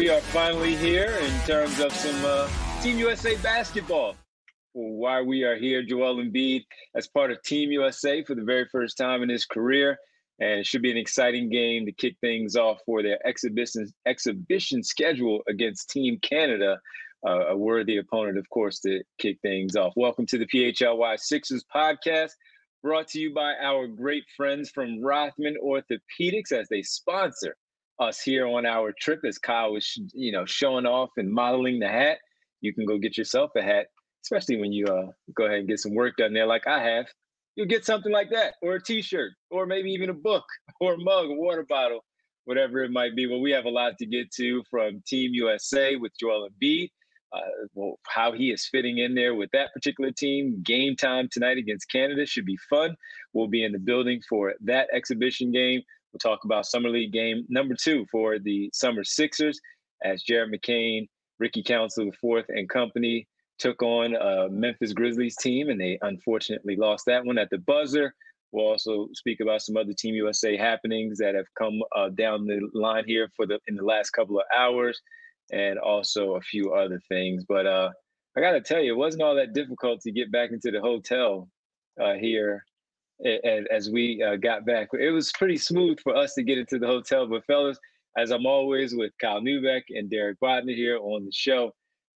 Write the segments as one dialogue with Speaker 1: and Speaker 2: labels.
Speaker 1: we are finally here in terms of some Team USA basketball. Why we are here, Joel Embiid as part of Team USA for the very first time in his career. And it should be an exciting game to kick things off for their exhibition schedule against Team Canada, a worthy opponent, of course, to kick things off. Welcome to the PHLY Sixers podcast, brought to you by our great friends from Rothman Orthopedics as they sponsor us here on our trip. As Kyle was, showing off and modeling the hat, you can go get yourself a hat, especially when you go ahead and get some work done there like I have. You'll get something like that, or a T-shirt, or maybe even a book, or a mug, a water bottle, whatever it might be. Well, we have a lot to get to from Team USA with Joel Embiid, how he is fitting in there with that particular team. Game time tonight against Canada should be fun. We'll be in the building for that exhibition game. We'll talk about Summer League game number 2 for the Summer Sixers as Jared McCain, Ricky Council IV, and company took on a Memphis Grizzlies team, and they unfortunately lost that one at the buzzer. We'll also speak about some other Team USA happenings that have come down the line here in the last couple of hours, and also a few other things. But I got to tell you, it wasn't all that difficult to get back into the hotel here as we got back. It was pretty smooth for us to get into the hotel. But fellas, as I'm always with Kyle Neubeck and Derek Bodner here on the show,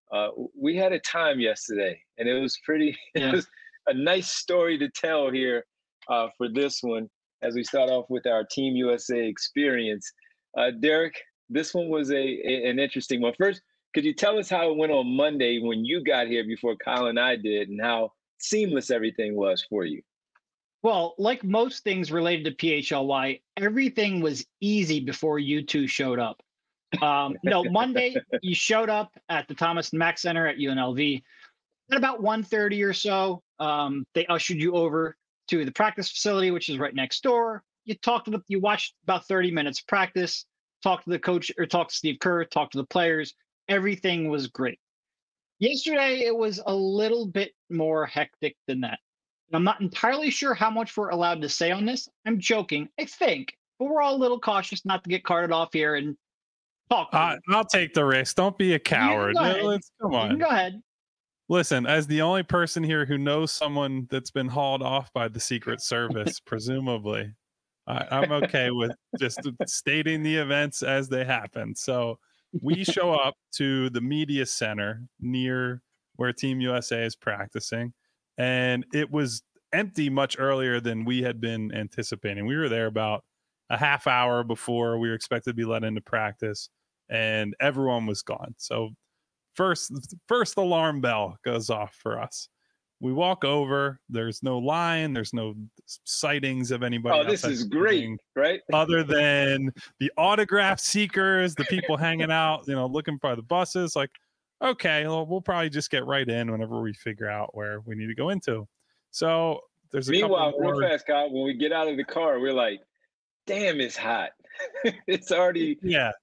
Speaker 1: we had a time yesterday, and it was it was a nice story to tell here for this one as we start off with our Team USA experience. Derek, this one was an interesting one. First, could you tell us how it went on Monday when you got here before Kyle and I did, and how seamless everything was for you?
Speaker 2: Well, like most things related to PHLY, everything was easy before you two showed up. No, Monday, you showed up at the Thomas and Mack Center at UNLV. At about 1:30 or so, they ushered you over to the practice facility, which is right next door. You watched about 30 minutes of practice, talked to the coach, or talked to Steve Kerr, talked to the players. Everything was great. Yesterday, it was a little bit more hectic than that. And I'm not entirely sure how much we're allowed to say on this. I'm joking, I think, but we're all a little cautious not to get carted off here and talk.
Speaker 3: I'll take the risk. Don't be a coward. Come on.
Speaker 2: Go ahead.
Speaker 3: Listen, as the only person here who knows someone that's been hauled off by the Secret Service, presumably, I'm okay with just stating the events as they happen. So we show up to the media center near where Team USA is practicing, and it was empty much earlier than we had been anticipating. We were there about a half hour before we were expected to be let into practice, and everyone was gone. So first alarm bell goes off for us. We walk over. There's no line. There's no sightings of anybody.
Speaker 1: Oh, this is great, right?
Speaker 3: Other than the autograph seekers, the people hanging out, looking for the buses. Like, okay, well, we'll probably just get right in whenever we figure out where we need to go into. So there's
Speaker 1: Meanwhile, real fast, Kyle, when we get out of the car, we're like, damn, it's hot. It's already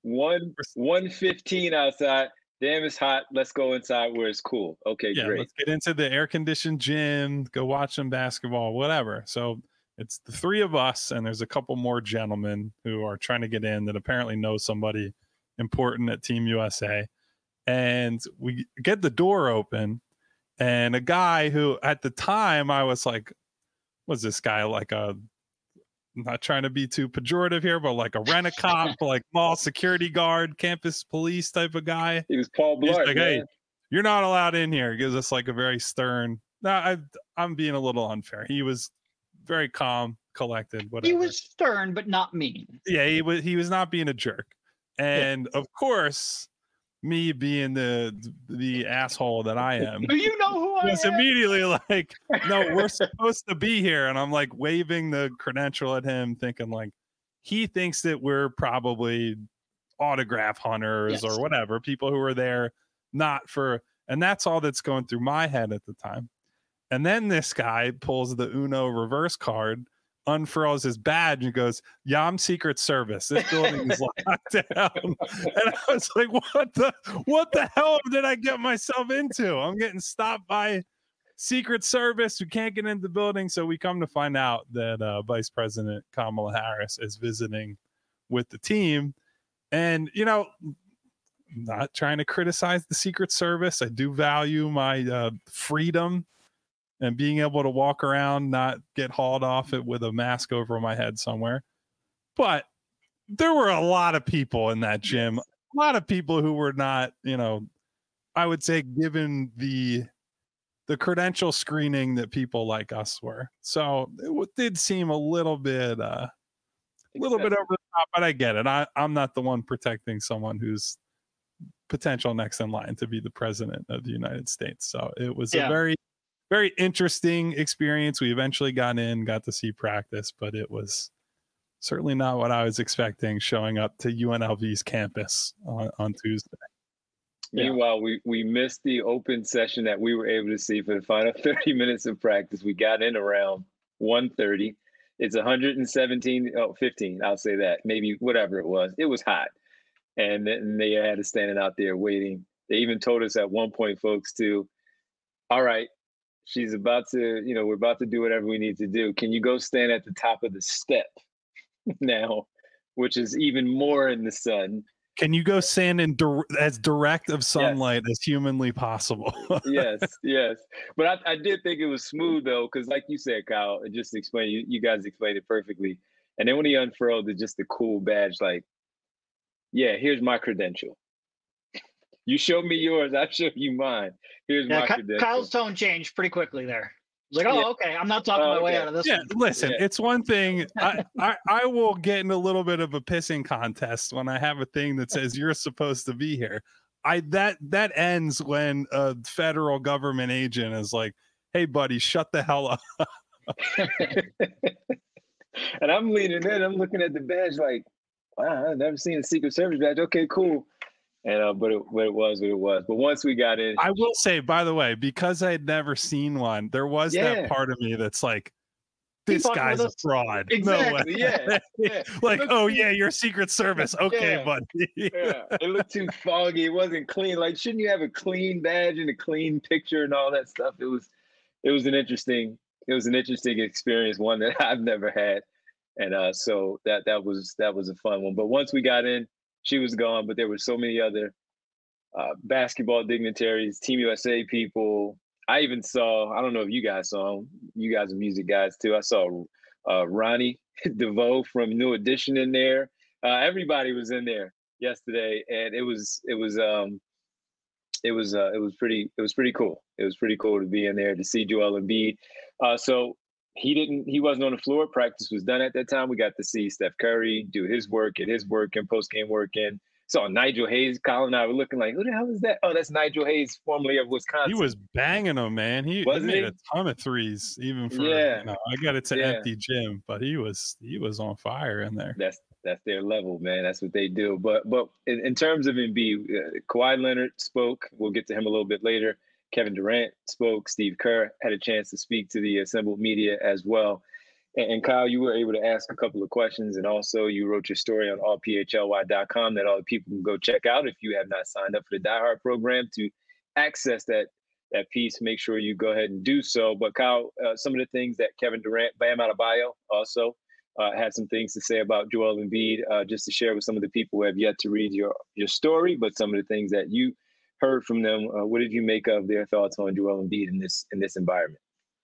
Speaker 1: 1:15 outside. Damn, it's hot. Let's go inside where it's cool. Okay, great.
Speaker 3: Let's get into the air-conditioned gym, go watch some basketball, whatever. So it's the three of us, and there's a couple more gentlemen who are trying to get in that apparently know somebody important at Team USA. And we get the door open, and a guy who at the time I was like, was this guy like I'm not trying to be too pejorative here, but like a rent-a-cop, like mall security guard, campus police type of guy.
Speaker 1: He was Paul Blart.
Speaker 3: He's like, hey, you're not allowed in here. He gives us like a very stern. No, I'm being a little unfair. He was very calm, collected. Whatever.
Speaker 2: He was stern, but not mean.
Speaker 3: Yeah, he was not being a jerk. And of course, me being the asshole that I am.
Speaker 2: Do you know who I am?
Speaker 3: Immediately like, no, we're supposed to be here. And I'm like waving the credential at him, thinking like he thinks that we're probably autograph hunters or whatever, people who are there not for, and that's all that's going through my head at the time. And then this guy pulls the Uno reverse card, unfurls his badge and goes, yeah, I'm Secret Service. This building is locked down. And I was like, what the hell did I get myself into? I'm getting stopped by Secret Service. We can't get into the building. So we come to find out that Vice President Kamala Harris is visiting with the team. And, not trying to criticize the Secret Service. I do value my freedom and being able to walk around, not get hauled off it with a mask over my head somewhere. But there were a lot of people in that gym, a lot of people who were not, I would say given the credential screening that people like us were. So it did seem a little bit over the top, but I get it. I'm not the one protecting someone who's potential next in line to be the president of the United States. So it was a very, very interesting experience. We eventually got to see practice, but it was certainly not what I was expecting showing up to UNLV's campus on Tuesday.
Speaker 1: Meanwhile, we missed the open session that we were able to see for the final 30 minutes of practice. We got in around 1:30. It's 15, I'll say that, maybe whatever it was. It was hot. And then they had us standing out there waiting. They even told us at one point, folks, all right, she's about to, we're about to do whatever we need to do. Can you go stand at the top of the step now, which is even more in the sun?
Speaker 3: Can you go stand in as direct of sunlight as humanly possible?
Speaker 1: yes. But I did think it was smooth, though, because like you said, Kyle, just explain, you guys explained it perfectly. And then when he unfurled just the cool badge, like, yeah, here's my credential. You show me yours, I show you mine. Here's my credential.
Speaker 2: Kyle's tone changed pretty quickly there. Like, okay, I'm not talking my way out of this.
Speaker 3: Yeah, listen, it's one thing. I will get in a little bit of a pissing contest when I have a thing that says you're supposed to be here. That ends when a federal government agent is like, "Hey, buddy, shut the hell up."
Speaker 1: And I'm leaning in. I'm looking at the badge like, wow, I've never seen a Secret Service badge. Okay, cool. And but it was what it was. But once we got in,
Speaker 3: I will say, by the way, because I had never seen one, there was that part of me that's like, this guy's a fraud.
Speaker 1: Exactly.
Speaker 3: No way.
Speaker 1: Yeah.
Speaker 3: Like, you're Secret Service. Okay, buddy.
Speaker 1: It looked too foggy. It wasn't clean. Like, shouldn't you have a clean badge and a clean picture and all that stuff? It was an interesting experience, one that I've never had. And so that was a fun one. But once we got in, she was gone, but there were so many other basketball dignitaries, Team USA people. I even saw, I don't know if you guys saw him, you guys are music guys too. I saw Ronnie DeVoe from New Edition in there. Everybody was in there yesterday, and it was pretty cool. It was pretty cool to be in there to see Joel Embiid. So he wasn't on the floor. Practice was done at that time. We got to see Steph Curry do his work, get his work in, post-game work in. Saw Nigel Hayes. Colin and I were looking like, who the hell is that? Oh, that's Nigel Hayes, formerly of Wisconsin.
Speaker 3: He was banging them, man. He made a ton of threes, even for I got it to empty gym, but he was on fire in there.
Speaker 1: That's their level, man. That's what they do. But in terms of Embiid, Kawhi Leonard spoke. We'll get to him a little bit later. Kevin Durant spoke. Steve Kerr had a chance to speak to the assembled media as well. And Kyle, you were able to ask a couple of questions, and also you wrote your story on allphly.com that all the people can go check out. If you have not signed up for the Die Hard program to access that piece, make sure you go ahead and do so. But Kyle, some of the things that Kevin Durant, Bam Adebayo, also had some things to say about Joel Embiid, just to share with some of the people who have yet to read your story, but some of the things that you heard from them. What did you make of their thoughts on Joel Embiid in this environment?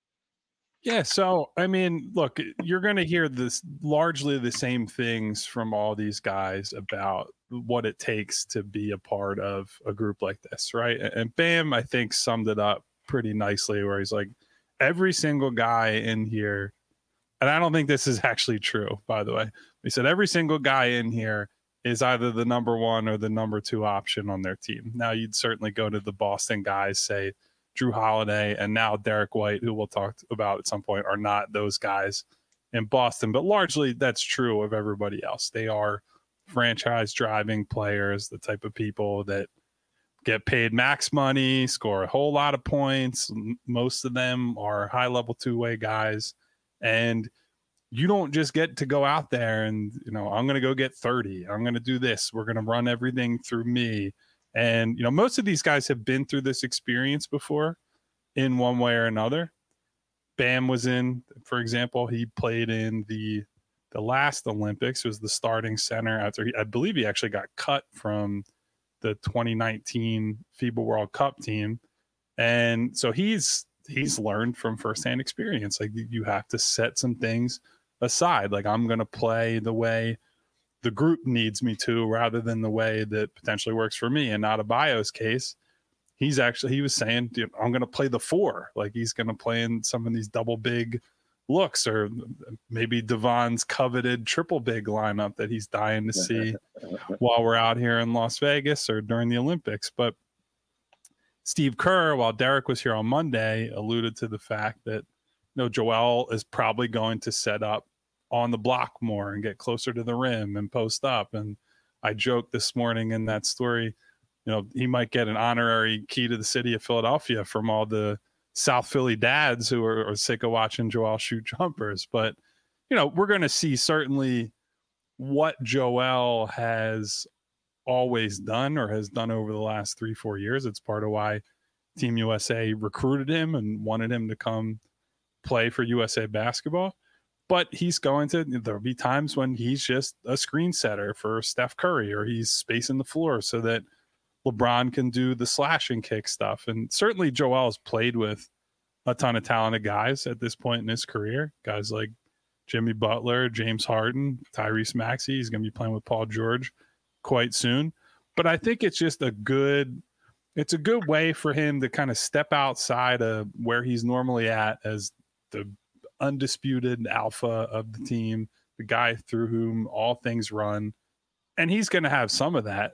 Speaker 3: Yeah, so I mean, look, you're going to hear this largely the same things from all these guys about what it takes to be a part of a group like this, right? And Bam, I think, summed it up pretty nicely, where he's like, every single guy in here, and I don't think this is actually true, by the way. He said every single guy in here is either the number one or the number two option on their team. Now, you'd certainly go to the Boston guys, say Drew Holiday and now Derek White, who we'll talk about at some point, are not those guys in Boston. But largely that's true of everybody else. They are franchise driving players, the type of people that get paid max money, score a whole lot of points. Most of them are high-level two-way guys. And you don't just get to go out there and, I'm going to go get 30. I'm going to do this. We're going to run everything through me. And, most of these guys have been through this experience before in one way or another. Bam was in, for example, he played in the last Olympics, was the starting center after I believe he actually got cut from the 2019 FIBA World Cup team. And so he's learned from firsthand experience. Like, you have to set some things aside. Like, I'm going to play the way the group needs me to, rather than the way that potentially works for me. And not Adebayo's case, he was saying, dude, I'm going to play the 4. Like, he's going to play in some of these double big looks, or maybe Devon's coveted triple big lineup that he's dying to see while we're out here in Las Vegas or during the Olympics. But Steve Kerr, while Derek was here on Monday, alluded to the fact that, Joel is probably going to set up on the block more and get closer to the rim and post up. And I joked this morning in that story, he might get an honorary key to the city of Philadelphia from all the South Philly dads who are sick of watching Joel shoot jumpers. But, we're going to see certainly what Joel has always done, or has done over the last 3-4 years. It's part of why Team USA recruited him and wanted him to come play for USA basketball. But there'll be times when he's just a screen setter for Steph Curry, or he's spacing the floor so that LeBron can do the slash and kick stuff. And certainly Joel's played with a ton of talented guys at this point in his career. Guys like Jimmy Butler, James Harden, Tyrese Maxey. He's going to be playing with Paul George quite soon. But I think it's just a good way for him to kind of step outside of where he's normally at as the undisputed alpha of the team, the guy through whom all things run. And he's going to have some of that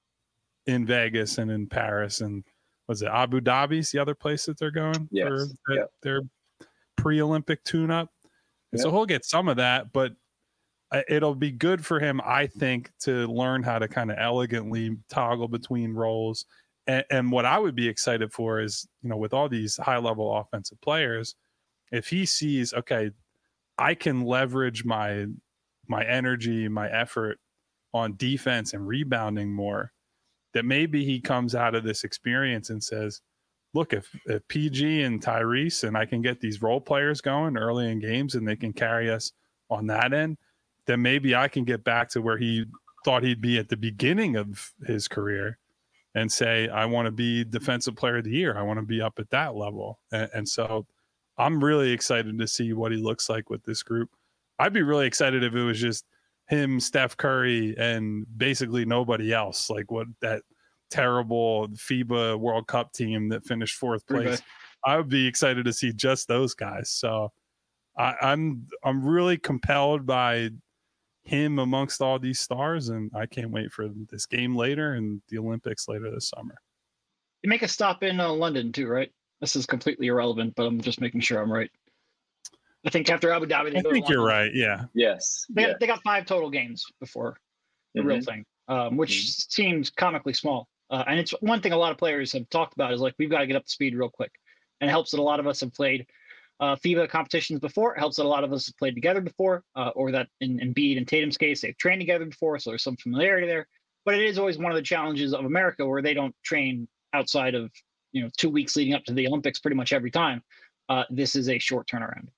Speaker 3: in Vegas and in Paris, and was it Abu Dhabi's the other place that they're going for their pre-Olympic tune-up? And so he'll get some of that, but it'll be good for him, I think, to learn how to kind of elegantly toggle between roles. And what I would be excited for is, with all these high-level offensive players, if he sees, okay, I can leverage my energy, my effort on defense and rebounding more, that maybe he comes out of this experience and says, look, if PG and Tyrese and I can get these role players going early in games and they can carry us on that end, then maybe I can get back to where he thought he'd be at the beginning of his career and say, I want to be defensive player of the year. I want to be up at that level. And so I'm really excited to see what he looks like with this group. I'd be really excited if it was just him, Steph Curry, and basically nobody else, like what that terrible FIBA World Cup team that finished 4th place. I would be excited to see just those guys. So I'm really compelled by him amongst all these stars, and I can't wait for this game later and the Olympics later this summer.
Speaker 2: You make a stop in London too, right? This is completely irrelevant, but I'm just making sure I'm right. I think after Abu Dhabi,
Speaker 3: I think you're right. Yeah.
Speaker 1: Yes.
Speaker 2: They got 5 total games before the real thing, which seems comically small. And it's one thing a lot of players have talked about is like, we've got to get up to speed real quick. And it helps that a lot of us have played FIBA competitions before. It helps that a lot of us have played together before, or that in Embiid and Tatum's case, they've trained together before. So there's some familiarity there. But it is always one of the challenges of America where they don't train outside of 2 weeks leading up to the Olympics pretty much every time. This is a short turnaround.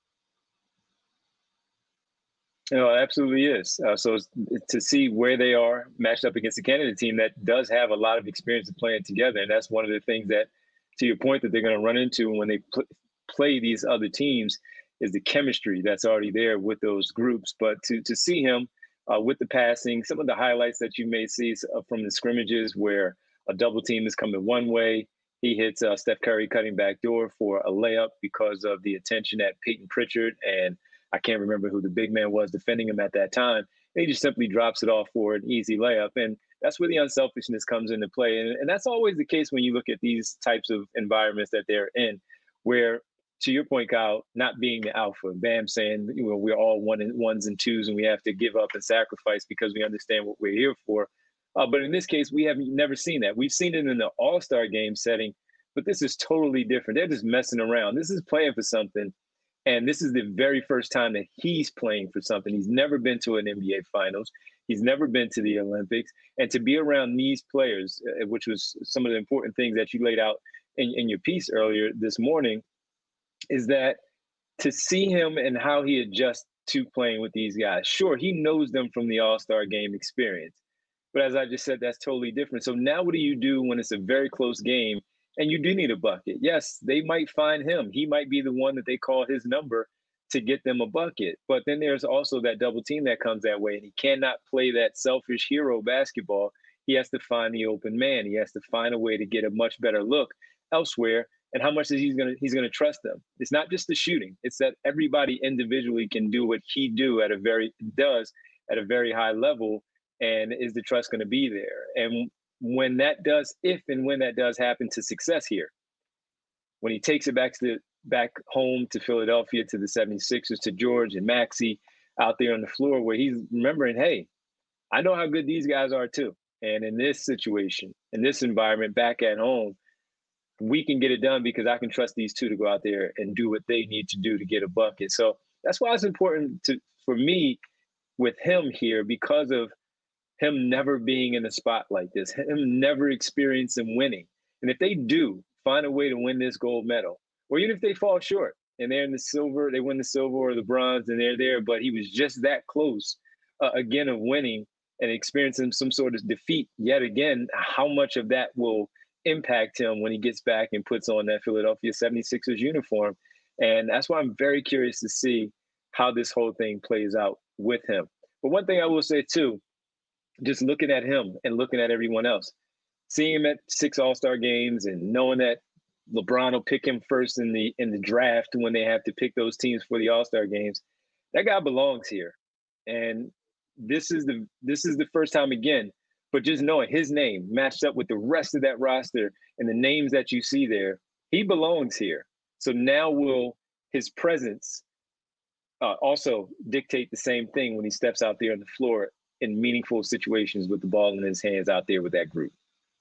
Speaker 1: It absolutely is. So to see where they are matched up against a Canada team that does have a lot of experience of playing together. And that's one of the things that, to your point, that they're going to run into when they play these other teams is the chemistry that's already there with those groups. But to see him with the passing, some of the highlights that you may see from the scrimmages where a double team is coming one way, he hits Steph Curry cutting back door for a layup because of the attention at Peyton Pritchard, and I can't remember who the big man was defending him at that time. And he just simply drops it off for an easy layup. And that's where the unselfishness comes into play. And that's always the case when you look at these types of environments that they're in, where, to your point, Kyle, not being the alpha, Bam saying, we're all ones and twos and we have to give up and sacrifice because we understand what we're here for. But in this case, we have never seen that. We've seen it in the All-Star game setting, but this is totally different. They're just messing around. This is playing for something. And this is the very first time that he's playing for something. He's never been to an NBA Finals. He's never been to the Olympics. And to be around these players, which was some of the important things that you laid out in your piece earlier this morning, is that to see him and how he adjusts to playing with these guys. Sure, he knows them from the All-Star game experience. But as I just said, that's totally different. So now what do you do when it's a very close game and you do need a bucket? Yes, they might find him. He might be the one that they call his number to get them a bucket. But then there's also that double team that comes that way, and he cannot play that selfish hero basketball. He has to find the open man. He has to find a way to get a much better look elsewhere. And how much is he's gonna trust them? It's not just the shooting. It's that everybody individually can do what he does at a very high level. And is the trust going to be there? And when that does, if and when that does happen to success here, when he takes it back home to Philadelphia, to the 76ers, to George and Maxey out there on the floor, where he's remembering, hey, I know how good these guys are too. And in this situation, in this environment back at home, we can get it done because I can trust these two to go out there and do what they need to do to get a bucket. So that's why it's important for me with him here, because of him never being in a spot like this, him never experiencing winning. And if they do find a way to win this gold medal, or even if they fall short and they're in the silver, they win the silver or the bronze and they're there, but he was just that close again of winning and experiencing some sort of defeat yet again, how much of that will impact him when he gets back and puts on that Philadelphia 76ers uniform? And that's why I'm very curious to see how this whole thing plays out with him. But one thing I will say too, just looking at him and looking at everyone else, seeing him at 6 All-Star games and knowing that LeBron will pick him first in the draft when they have to pick those teams for the All-Star games, that guy belongs here. And this is the first time again, but just knowing his name matched up with the rest of that roster and the names that you see there, he belongs here. So now will his presence also dictate the same thing when he steps out there on the floor in meaningful situations with the ball in his hands out there with that group.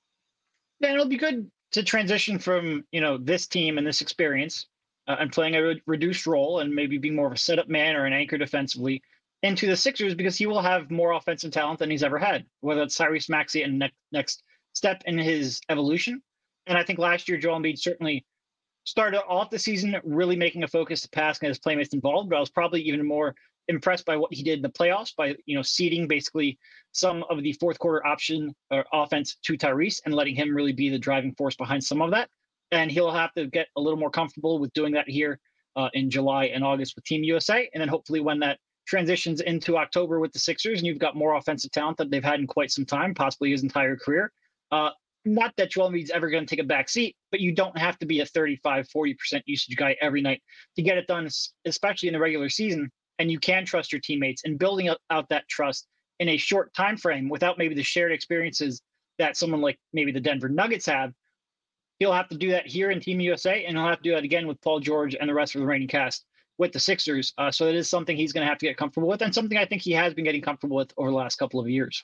Speaker 2: Yeah, it'll be good to transition from, this team and this experience and playing a reduced role and maybe being more of a setup man or an anchor defensively into the Sixers, because he will have more offensive talent than he's ever had, whether it's Tyrese Maxey and next step in his evolution. And I think last year, Joel Embiid certainly started off the season really making a focus to pass and his playmates involved, but I was probably even more impressed by what he did in the playoffs by, ceding basically some of the fourth quarter option or offense to Tyrese and letting him really be the driving force behind some of that. And he'll have to get a little more comfortable with doing that here in July and August with Team USA. And then hopefully when that transitions into October with the Sixers and you've got more offensive talent that they've had in quite some time, possibly his entire career. Not that Joel Embiid's ever going to take a back seat, but you don't have to be a 35-40% usage guy every night to get it done, especially in the regular season. And you can trust your teammates, and building out that trust in a short time frame without maybe the shared experiences that someone like maybe the Denver Nuggets have. He'll have to do that here in Team USA, and he'll have to do that again with Paul George and the rest of the reigning cast with the Sixers. So it is something he's going to have to get comfortable with, and something I think he has been getting comfortable with over the last couple of years.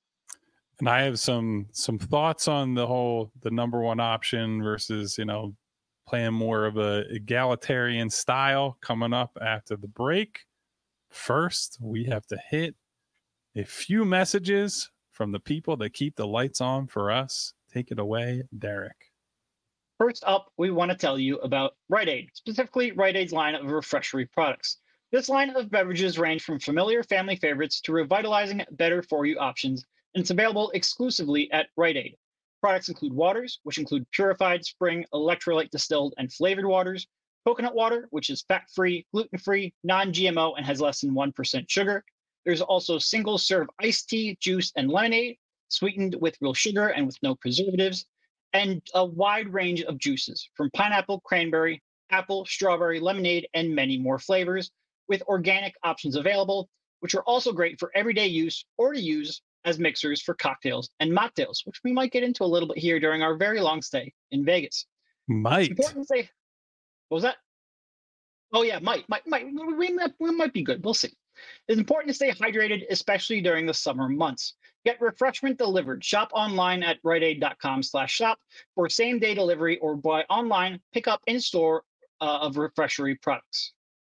Speaker 3: And I have some thoughts on the number one option versus, playing more of a egalitarian style coming up after the break. First, we have to hit a few messages from the people that keep the lights on for us. Take it away, Derek.
Speaker 2: First up, we want to tell you about Rite Aid, specifically Rite Aid's line of refreshment products. This line of beverages range from familiar family favorites to revitalizing, better-for-you options, and it's available exclusively at Rite Aid. Products include waters, which include purified, spring, electrolyte distilled, and flavored waters, coconut water, which is fat-free, gluten-free, non-GMO, and has less than 1% sugar. There's also single-serve iced tea, juice, and lemonade, sweetened with real sugar and with no preservatives, and a wide range of juices, from pineapple, cranberry, apple, strawberry, lemonade, and many more flavors, with organic options available, which are also great for everyday use or to use as mixers for cocktails and mocktails, which we might get into a little bit here during our very long stay in Vegas.
Speaker 3: Might.
Speaker 2: It's important to say, what was that? Oh yeah, might. We might be good. We'll see. It's important to stay hydrated, especially during the summer months. Get refreshment delivered. Shop online at riteaid.com/shop for same-day delivery or buy online, pick up in-store of refreshery products.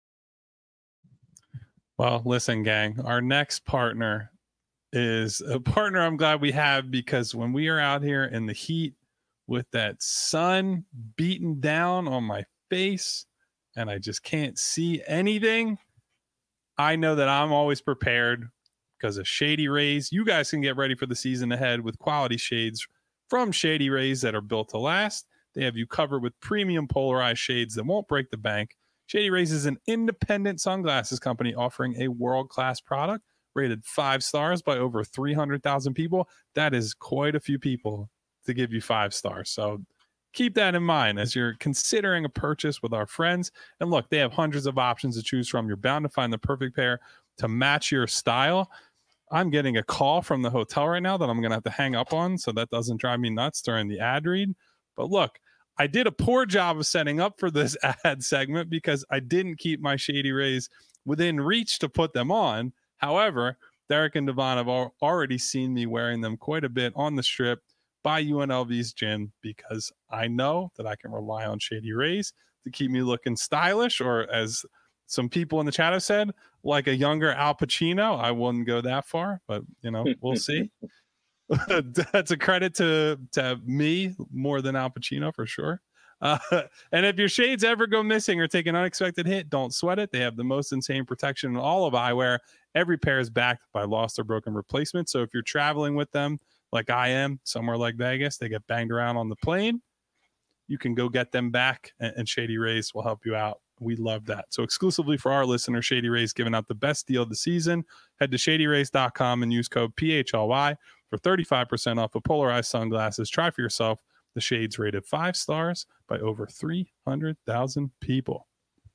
Speaker 3: Well, listen, gang, our next partner is a partner I'm glad we have, because when we are out here in the heat with that sun beating down on my face and I just can't see anything, I know that I'm always prepared because of Shady Rays. You guys can get ready for the season ahead with quality shades from Shady Rays that are built to last. They have you covered with premium polarized shades that won't break the bank. Shady Rays is an independent sunglasses company offering a world-class product rated 5 stars by over 300,000 people. That is quite a few people to give you 5 stars. So keep that in mind as you're considering a purchase with our friends. And look, they have hundreds of options to choose from. You're bound to find the perfect pair to match your style. I'm getting a call from the hotel right now that I'm going to have to hang up on, so that doesn't drive me nuts during the ad read. But look, I did a poor job of setting up for this ad segment because I didn't keep my Shady Rays within reach to put them on. However, Derek and Devon have already seen me wearing them quite a bit on the strip by UNLV's gym because I know that I can rely on Shady Rays to keep me looking stylish, or as some people in the chat have said, like a younger Al Pacino. I wouldn't go that far, but we'll see. That's a credit to me more than Al Pacino for sure. And if your shades ever go missing or take an unexpected hit, don't sweat it. They have the most insane protection in all of eyewear. Every pair is backed by lost or broken replacement. So if you're traveling with them, like I am, somewhere like Vegas, they get banged around on the plane, you can go get them back, and Shady Rays will help you out. We love that. So exclusively for our listeners, Shady Rays giving out the best deal of the season. Head to shadyrays.com and use code PHLY for 35% off of polarized sunglasses. Try for yourself. The shades rated 5 stars by over 300,000 people.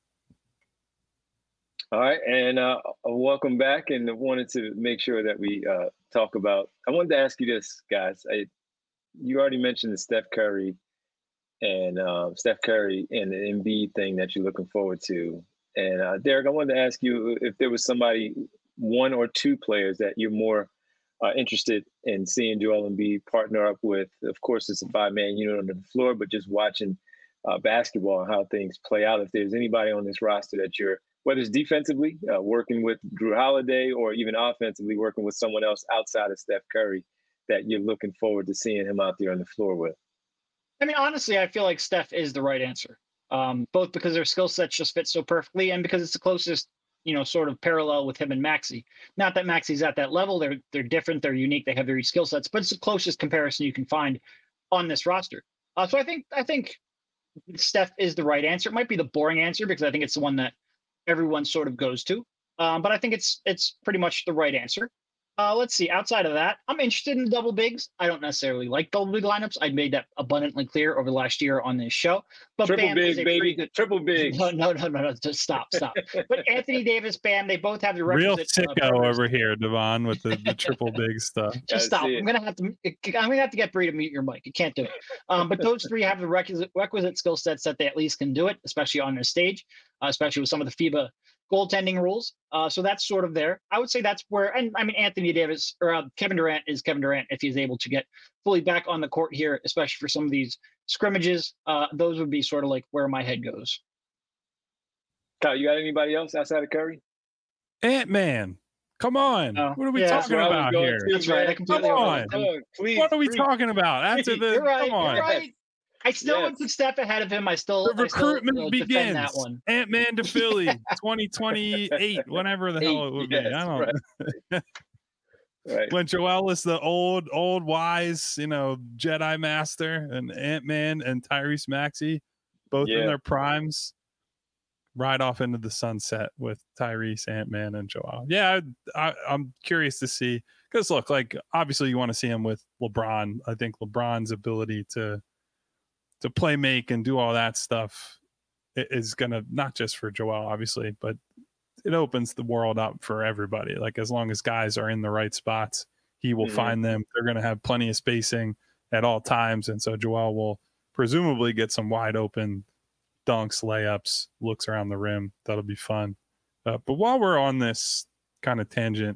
Speaker 1: All right, and welcome back. And I wanted to make sure that we talk about. I wanted to ask you this, guys. You already mentioned the Steph Curry and the Embiid thing that you're looking forward to. And Derek, I wanted to ask you if there was somebody, one or two players that you're more interested in seeing Joel Embiid partner up with. Of course, it's a 5-man unit on the floor, but just watching basketball and how things play out. If there's anybody on this roster that you're, whether it's defensively working with Drew Holiday, or even offensively working with someone else outside of Steph Curry, that you're looking forward to seeing him out there on the floor with.
Speaker 2: I mean, honestly, I feel like Steph is the right answer, both because their skill sets just fit so perfectly and because it's the closest, sort of parallel with him and Maxey. Not that Maxey's at that level. They're different. They're unique. They have their skill sets, but it's the closest comparison you can find on this roster. So I think Steph is the right answer. It might be the boring answer because I think it's the one that everyone sort of goes to. But I think it's pretty much the right answer. Let's see. Outside of that, I'm interested in double bigs. I don't necessarily like double big lineups. I made that abundantly clear over the last year on this show. But
Speaker 1: triple
Speaker 2: Bam
Speaker 1: big,
Speaker 2: is
Speaker 1: baby.
Speaker 2: good...
Speaker 1: Triple big.
Speaker 2: No. Just stop. But Anthony Davis, Bam, they both have the
Speaker 3: real
Speaker 2: requisite...
Speaker 3: sicko over here, Devon, with the triple big stuff.
Speaker 2: Just stop. I'm gonna have to get Bree to mute your mic. You can't do it. But those three have the requisite skill sets that they at least can do it, especially on their stage, especially with some of the FIBA goaltending rules. So that's sort of there. I would say that's where, and I mean, Anthony Davis or Kevin Durant is Kevin Durant if he's able to get fully back on the court here, especially for some of these scrimmages. Those would be sort of like where my head goes.
Speaker 1: Kyle, you got anybody else outside of Curry?
Speaker 3: Ant-Man. Come on. What are we talking about here?
Speaker 2: That's right.
Speaker 3: Come on.
Speaker 1: Please,
Speaker 3: what are we talking about? After the,
Speaker 2: you're right,
Speaker 3: come on.
Speaker 2: You're right. I still would put Steph ahead of him.
Speaker 3: The recruitment begins.
Speaker 2: That one.
Speaker 3: Ant-Man to Philly, 2028, whatever the hell it would be. I don't know. Right. When Joel is the old wise, Jedi master, and Ant-Man and Tyrese Maxey, both in their primes, ride off into the sunset with Tyrese, Ant-Man, and Joel. Yeah, I'm curious to see, because look, like obviously you want to see him with LeBron. I think LeBron's ability to play make and do all that stuff is going to, not just for Joel, obviously, but it opens the world up for everybody. Like as long as guys are in the right spots, he will find them. They're going to have plenty of spacing at all times. And so Joel will presumably get some wide open dunks, layups, looks around the rim. That'll be fun. But while we're on this kind of tangent,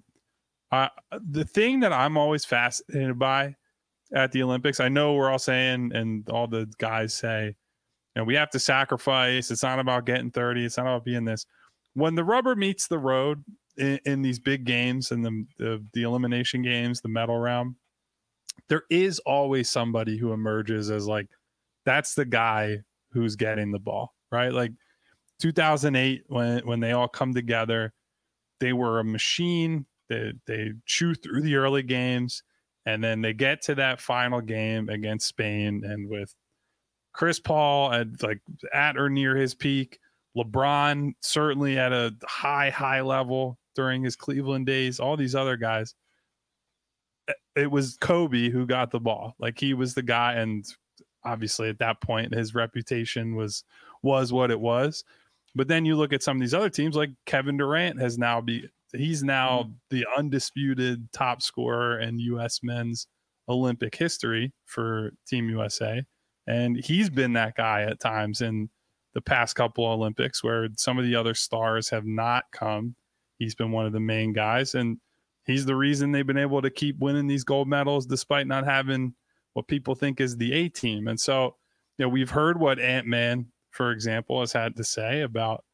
Speaker 3: the thing that I'm always fascinated by at the Olympics, I know we're all saying, and all the guys say, we have to sacrifice. It's not about getting 30. It's not about being this. When the rubber meets the road in these big games and the elimination games, the medal round, there is always somebody who emerges as like, that's the guy who's getting the ball, right? Like 2008, when they all come together, they were a machine They chew through the early games, and then they get to that final game against Spain, and with Chris Paul at or near his peak, LeBron certainly at a high level during his Cleveland days, all these other guys, it was Kobe who got the ball. Like, he was the guy, and obviously at that point his reputation was what it was. But then you look at some of these other teams, like Kevin Durant he's now the undisputed top scorer in U.S. men's Olympic history for Team USA. And he's been that guy at times in the past couple of Olympics where some of the other stars have not come. He's been one of the main guys, and he's the reason they've been able to keep winning these gold medals despite not having what people think is the A team. And so, we've heard what Ant-Man, for example, has had to say about,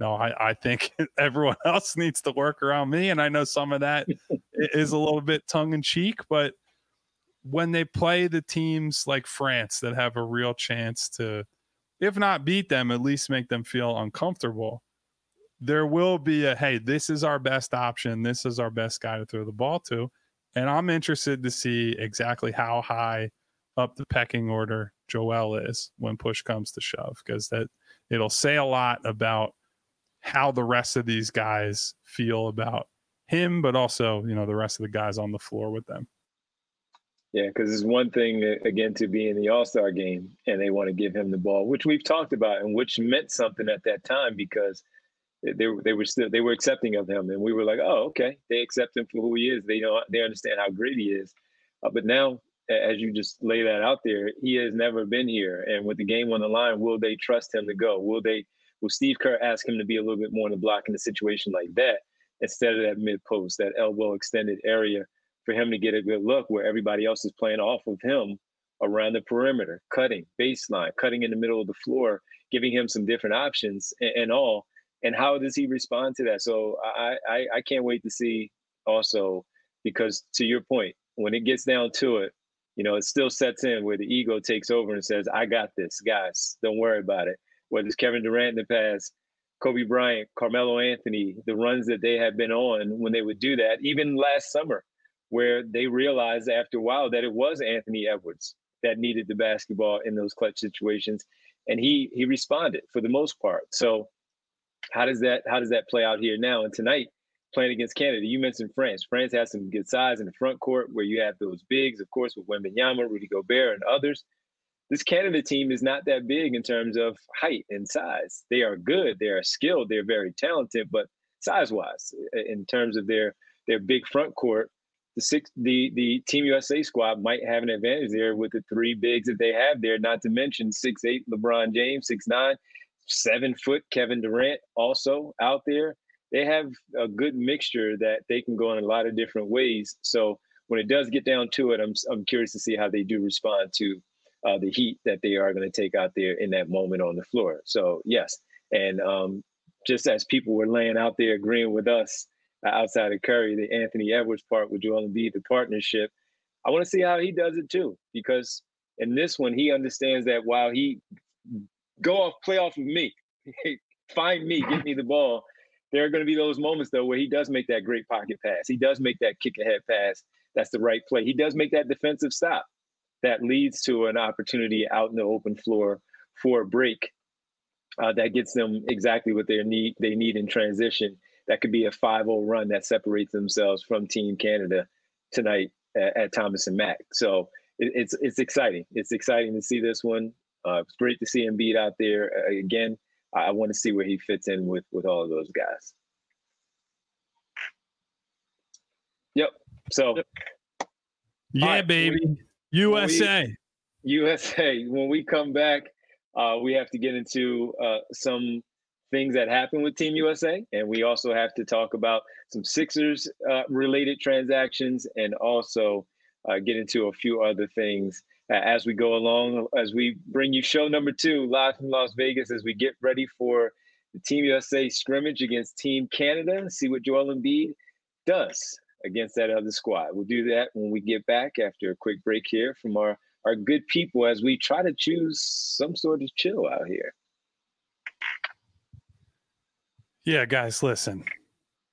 Speaker 3: I think everyone else needs to work around me. And I know some of that is a little bit tongue in cheek, but when they play the teams like France that have a real chance to, if not beat them, at least make them feel uncomfortable, there will be hey, this is our best option. This is our best guy to throw the ball to. And I'm interested to see exactly how high up the pecking order Joel is when push comes to shove, because it'll say a lot about how the rest of these guys feel about him, but also, the rest of the guys on the floor with them.
Speaker 1: Yeah, because it's one thing, again, to be in the All-Star game and they want to give him the ball, which we've talked about and which meant something at that time because they were accepting of him, and we were like, oh, okay, they accept him for who he is. They understand how great he is. But now, as you just lay that out there, he has never been here, and with the game on the line, will they trust him to go? Will Steve Kerr ask him to be a little bit more in the block in a situation like that instead of that mid post, that elbow extended area, for him to get a good look where everybody else is playing off of him around the perimeter, cutting, baseline, cutting in the middle of the floor, giving him some different options and all. And how does he respond to that? So I can't wait to see also, because to your point, when it gets down to it, it still sets in where the ego takes over and says, I got this, guys, don't worry about it. Whether it's Kevin Durant in the past, Kobe Bryant, Carmelo Anthony, the runs that they had been on when they would do that, even last summer, where they realized after a while that it was Anthony Edwards that needed the basketball in those clutch situations. And he responded for the most part. So how does that play out here now? And tonight, playing against Canada, you mentioned France. France has some good size in the front court where you have those bigs, of course, with Wembanyama, Rudy Gobert, and others. This Canada team is not that big in terms of height and size. They are good. They are skilled. They're very talented, but size-wise, in terms of their big front court, the Team USA squad might have an advantage there with the three bigs that they have there, not to mention 6'8" LeBron James, 6'9", 7-foot Kevin Durant also out there. They have a good mixture that they can go in a lot of different ways. So when it does get down to it, I'm curious to see how they do respond to the heat that they are going to take out there in that moment on the floor. So yes, and just as people were laying out there agreeing with us outside of Curry, the Anthony Edwards part with Joel Embiid, the partnership, I want to see how he does it too, because in this one, he understands that while he play off of me, find me, get me the ball, there are going to be those moments though where he does make that great pocket pass. He does make that kick ahead pass. That's the right play. He does make that defensive stop that leads to an opportunity out in the open floor for a break that gets them exactly what they need in transition. That could be a 5-0 run that separates themselves from Team Canada tonight at Thomas and Mack. So it's exciting. It's exciting to see this one. It's great to see Embiid out there again. I want to see where he fits in with all of those guys. Yep. So.
Speaker 3: Yeah, right, baby. USA.
Speaker 1: When we come back, we have to get into some things that happen with Team USA, and we also have to talk about some Sixers related transactions, and also get into a few other things as we go along, as we bring you show number 2 live from Las Vegas, as we get ready for the Team USA scrimmage against Team Canada and see what Joel Embiid does against that other squad. We'll do that when we get back after a quick break here from our good people as we try to choose some sort of chill out here.
Speaker 3: Yeah, guys, listen.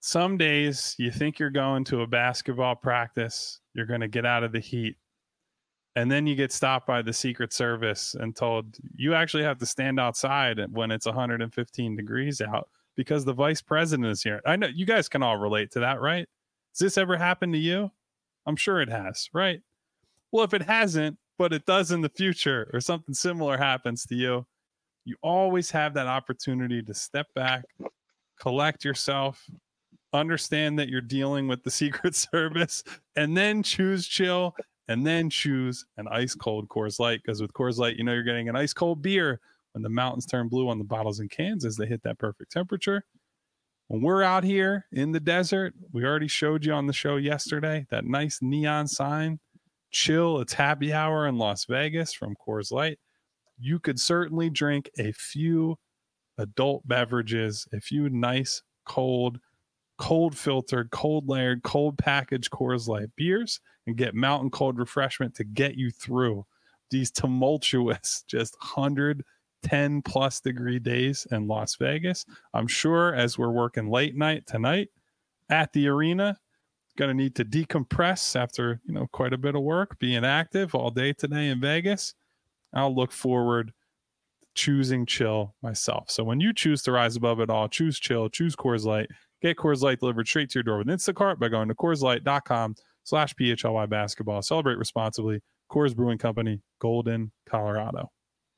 Speaker 3: Some days you think you're going to a basketball practice, you're going to get out of the heat. And then you get stopped by the Secret Service and told you actually have to stand outside when it's 115 degrees out because the vice president is here. I know you guys can all relate to that, right? Has this ever happened to you? I'm sure it has, right? Well, if it hasn't, but it does in the future or something similar happens to you, you always have that opportunity to step back, collect yourself, understand that you're dealing with the Secret Service, and then choose chill, and then choose an ice cold Coors Light. Because with Coors Light, you know you're getting an ice cold beer when the mountains turn blue on the bottles and cans as they hit that perfect temperature. When we're out here in the desert, we already showed you on the show yesterday that nice neon sign, chill, it's happy hour in Las Vegas from Coors Light. You could certainly drink a few adult beverages, a few nice, cold filtered, cold layered, cold packaged Coors Light beers and get mountain cold refreshment to get you through these tumultuous, just 110 plus degree days in Las Vegas. I'm sure as we're working late night tonight at the arena, going to need to decompress after, quite a bit of work, being active all day today in Vegas. I'll look forward to choosing chill myself. So when you choose to rise above it all, choose chill, choose Coors Light. Get Coors Light delivered straight to your door with Instacart by going to CoorsLight.com/PHLY basketball. Celebrate responsibly. Coors Brewing Company, Golden, Colorado.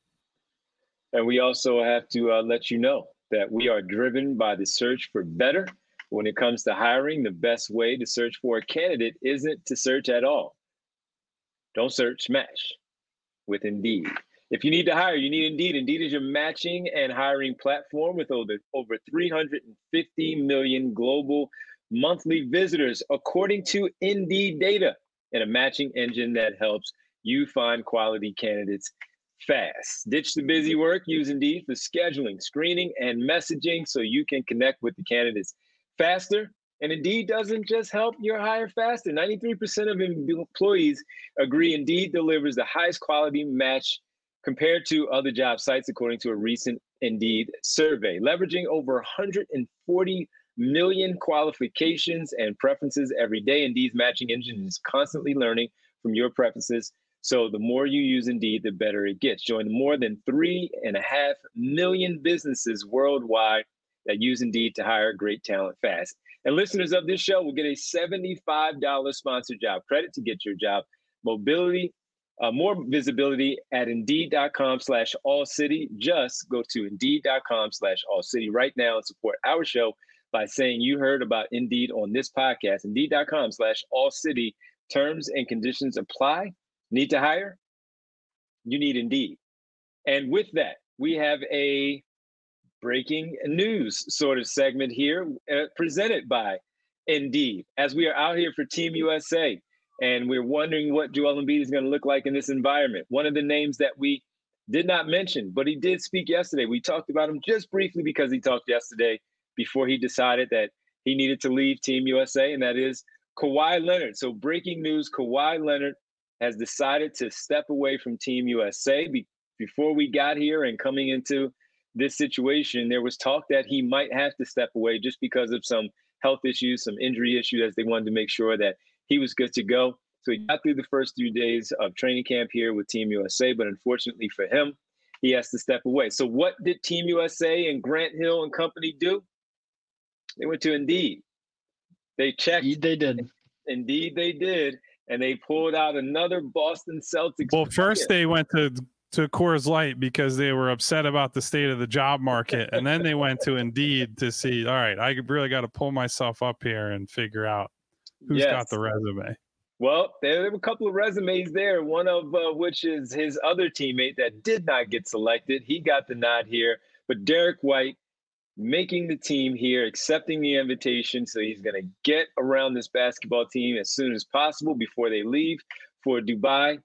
Speaker 1: And we also have to let you know that we are driven by the search for better. When it comes to hiring, the best way to search for a candidate isn't to search at all. Don't search, match with Indeed. If you need to hire, you need Indeed. Indeed is your matching and hiring platform with over 350 million global monthly visitors, according to Indeed data, and a matching engine that helps you find quality candidates fast. Ditch the busy work. Use Indeed for scheduling, screening, and messaging so you can connect with the candidates faster. And Indeed doesn't just help your hire faster. 93% of employees agree Indeed delivers the highest quality match compared to other job sites, according to a recent Indeed survey. Leveraging over 140 million qualifications and preferences every day, Indeed's matching engine is constantly learning from your preferences. So the more you use Indeed, the better it gets. Join more than 3.5 million businesses worldwide that use Indeed to hire great talent fast. And listeners of this show will get a $75 sponsored job credit to get your job mobility. More visibility at Indeed.com/AllCity. Just go to Indeed.com/AllCity right now and support our show by saying you heard about Indeed on this podcast. Indeed.com/AllCity. Terms and conditions apply. Need to hire? You need Indeed. And with that, we have a breaking news sort of segment here presented by Indeed. As we are out here for Team USA, and we're wondering what Joel Embiid is going to look like in this environment. One of the names that we did not mention, but he did speak yesterday. We talked about him just briefly because he talked yesterday before he decided that he needed to leave Team USA, and that is Kawhi Leonard. So breaking news, Kawhi Leonard has decided to step away from Team USA. Before we got here and coming into this situation, there was talk that he might have to step away just because of some health issues, some injury issues, as they wanted to make sure that he was good to go. So he got through the first 3 days of training camp here with Team USA, but unfortunately for him, he has to step away. So what did Team USA and Grant Hill and company do? They went to Indeed. They checked.
Speaker 2: Indeed they did.
Speaker 1: Indeed they did. And they pulled out another Boston Celtics.
Speaker 3: Well, first they went to Coors Light because they were upset about the state of the job market. And then they went to Indeed to see, all right, I really got to pull myself up here and figure out who's got the resume.
Speaker 1: Well, there were a couple of resumes there, one of which is his other teammate that did not get selected. He got the nod here. But Derek White making the team here, accepting the invitation. So he's going to get around this basketball team as soon as possible before they leave for Dubai.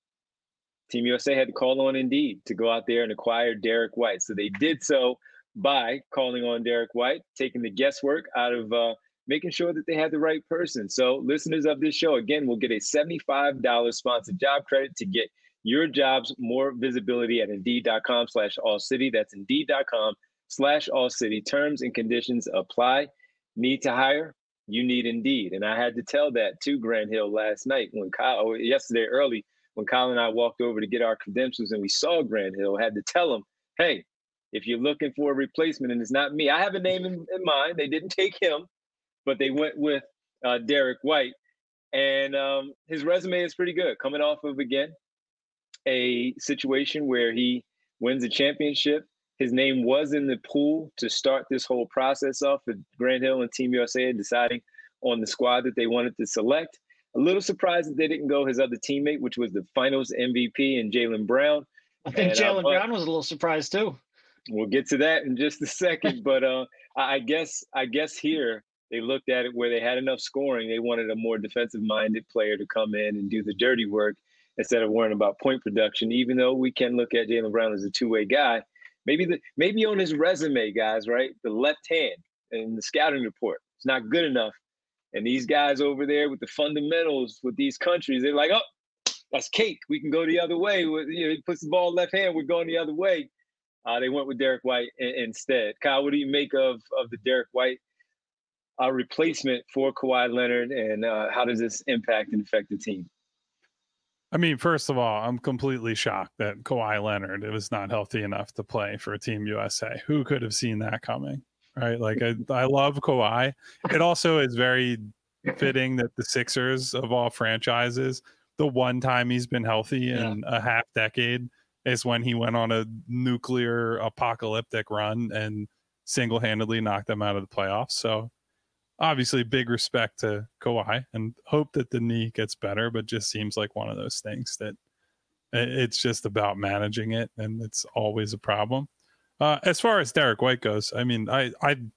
Speaker 1: Team USA had to call on Indeed to go out there and acquire Derek White. So they did so by calling on Derek White, taking the guesswork out of making sure that they had the right person. So listeners of this show, again, will get a $75 sponsored job credit to get your jobs more visibility at Indeed.com/AllCity. That's Indeed.com/AllCity. Terms and conditions apply. need to hire, you need Indeed. And I had to tell that to Grant Hill last night yesterday early, when Kyle and I walked over to get our credentials and we saw Grant Hill. I had to tell him, hey, if you're looking for a replacement and it's not me, I have a name in mind. They didn't take him, but they went with Derek White. And his resume is pretty good, coming off of, again, a situation where he wins a championship. His name was in the pool to start this whole process off with Grant Hill and Team USA deciding on the squad that they wanted to select. A little surprised that they didn't go his other teammate, which was the finals MVP and Jaylen Brown.
Speaker 2: I think Jaylen Brown was a little surprised too.
Speaker 1: We'll get to that in just a second. But I guess here they looked at it where they had enough scoring. They wanted a more defensive-minded player to come in and do the dirty work instead of worrying about point production, even though we can look at Jaylen Brown as a two-way guy. Maybe on his resume, guys, right? The left hand and the scouting report, it's not good enough. And these guys over there with the fundamentals with these countries, they're like, oh, that's cake. We can go the other way. He puts the ball left hand, we're going the other way. They went with Derek White instead. Kyle, what do you make of the Derek White replacement for Kawhi Leonard, and how does this impact and affect the team?
Speaker 3: I mean, first of all, I'm completely shocked that Kawhi Leonard was not healthy enough to play for Team USA. Who could have seen that coming, right? Like, I love Kawhi. It also is very fitting that the Sixers, of all franchises, the one time he's been healthy in a half decade is when he went on a nuclear apocalyptic run and single-handedly knocked them out of the playoffs. So obviously big respect to Kawhi, and hope that the knee gets better, but just seems like one of those things that it's just about managing it, and it's always a problem. As far as Derek White goes, I mean, I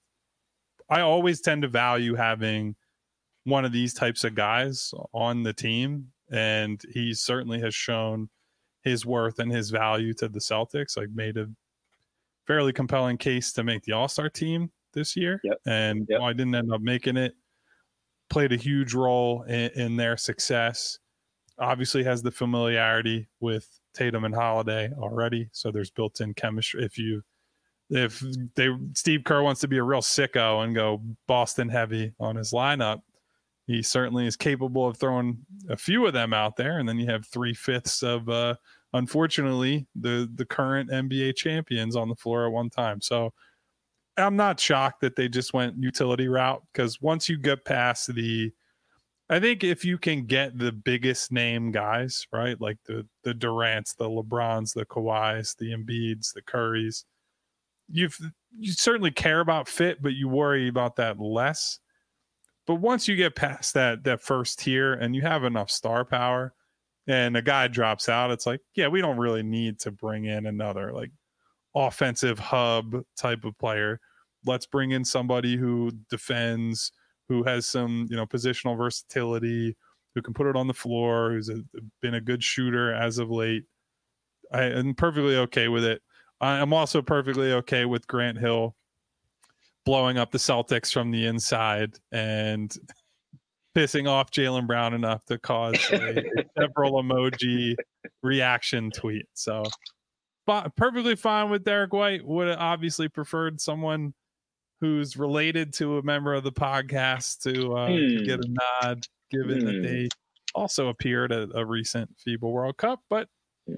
Speaker 3: always tend to value having one of these types of guys on the team, and he certainly has shown his worth and his value to the Celtics. Like, made a fairly compelling case to make the All-Star team this year. And while I didn't end up making it, played a huge role in their success. Obviously has the familiarity with Tatum and Holiday already, so there's built-in chemistry. If Steve Kerr wants to be a real sicko and go Boston heavy on his lineup, he certainly is capable of throwing a few of them out there, and then you have 3/5 of unfortunately the current NBA champions on the floor at one time. So I'm not shocked that they just went utility route, because once you get past I think if you can get the biggest name guys, right, like the Durants, the LeBrons, the Kawhis, the Embiids, the Currys, you certainly care about fit, but you worry about that less. But once you get past that first tier and you have enough star power and a guy drops out, it's like, yeah, we don't really need to bring in another like offensive hub type of player. Let's bring in somebody who defends, who has some, positional versatility, who can put it on the floor, who's been a good shooter as of late. I'm perfectly okay with it. I'm also perfectly okay with Grant Hill blowing up the Celtics from the inside and pissing off Jaylen Brown enough to cause a several emoji reaction tweet. So perfectly fine with Derek White. Would have obviously preferred someone who's related to a member of the podcast to get a nod, given that they also appeared at a recent FIBA World Cup. But,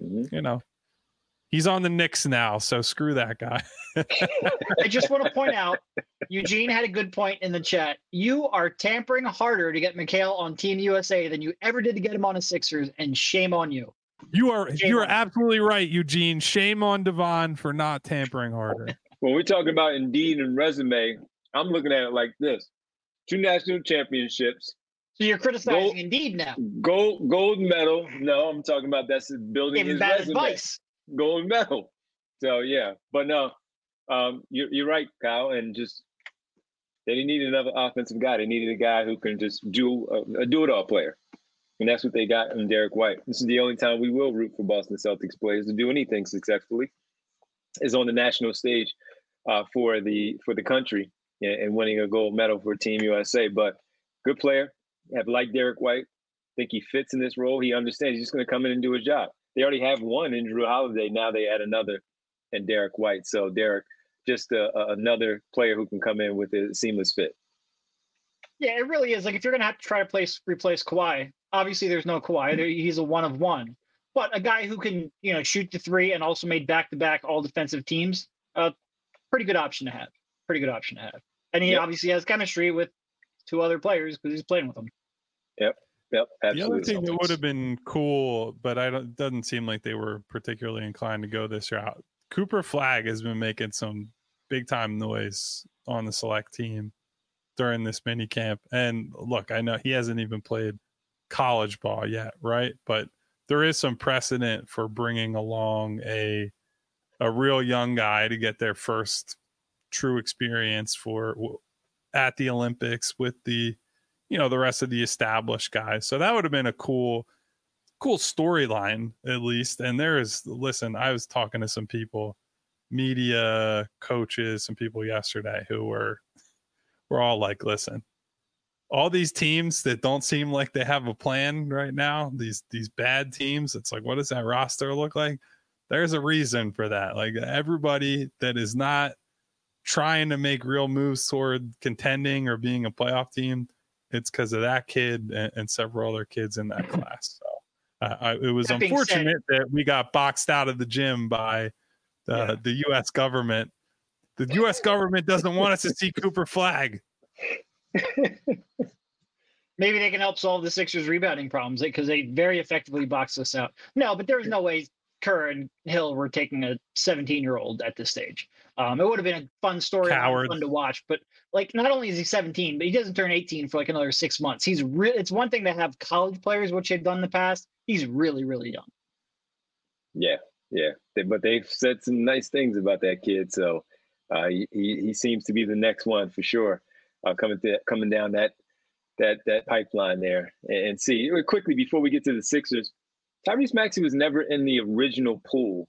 Speaker 3: he's on the Knicks now, so screw that guy.
Speaker 2: I just want to point out, Eugene had a good point in the chat. You are tampering harder to get Mikal on Team USA than you ever did to get him on the Sixers, and shame on you.
Speaker 3: You are absolutely right, Eugene. Shame on Devon for not tampering harder.
Speaker 1: When we're talking about Indeed and resume, I'm looking at it like this: 2 national championships.
Speaker 2: So you're criticizing Indeed now.
Speaker 1: Gold medal. No, I'm talking about that's building his resume. Advice. Gold medal. So yeah, but no, you're right, Kyle. And just they didn't need another offensive guy. They needed a guy who can just do a do-it-all player, and that's what they got in Derek White. This is the only time we will root for Boston Celtics players to do anything successfully, is on the national stage for the country and winning a gold medal for Team USA. But good player. Have liked Derek White. Think he fits in this role. He understands he's just going to come in and do his job. They already have one in Drew Holiday. Now they add another in Derek White. So Derek, just another player who can come in with a seamless fit.
Speaker 2: Yeah, it really is. Like if you're gonna have to try to replace Kawhi, obviously there's no Kawhi. He's a one of one. But a guy who can, shoot the three and also made back-to-back all defensive teams, pretty good option to have. Pretty good option to have. And he obviously has chemistry with two other players because he's playing with them.
Speaker 1: Yep, absolutely.
Speaker 3: The other thing that would have been cool, but it doesn't seem like they were particularly inclined to go this route. Cooper Flagg has been making some big-time noise on the select team during this mini camp. And look, I know he hasn't even played college ball yet, right? But there is some precedent for bringing along a real young guy to get their first true experience at the Olympics with the rest of the established guys. So that would have been a cool storyline at least. And I was talking to some people, media, coaches, some people yesterday who were all like, listen, all these teams that don't seem like they have a plan right now, these bad teams, it's like, what does that roster look like? There's a reason for that. Like everybody that is not trying to make real moves toward contending or being a playoff team, it's because of that kid and several other kids in that class. So it was unfortunate that we got boxed out of the gym by the U.S. government. The U.S. government doesn't want us to see Cooper Flagg.
Speaker 2: Maybe they can help solve the Sixers rebounding problems because they very effectively boxed us out. No, but there's no way Kerr and Hill were taking a 17-year-old at this stage. It would have been a fun story, fun to watch. But like, not only is he 17, but he doesn't turn 18 for like another 6 months. It's one thing to have college players, which they've done in the past. He's really, really young.
Speaker 1: Yeah. But they've said some nice things about that kid. So he seems to be the next one for sure. Coming down that pipeline there. And see, quickly before we get to the Sixers, Tyrese Maxey was never in the original pool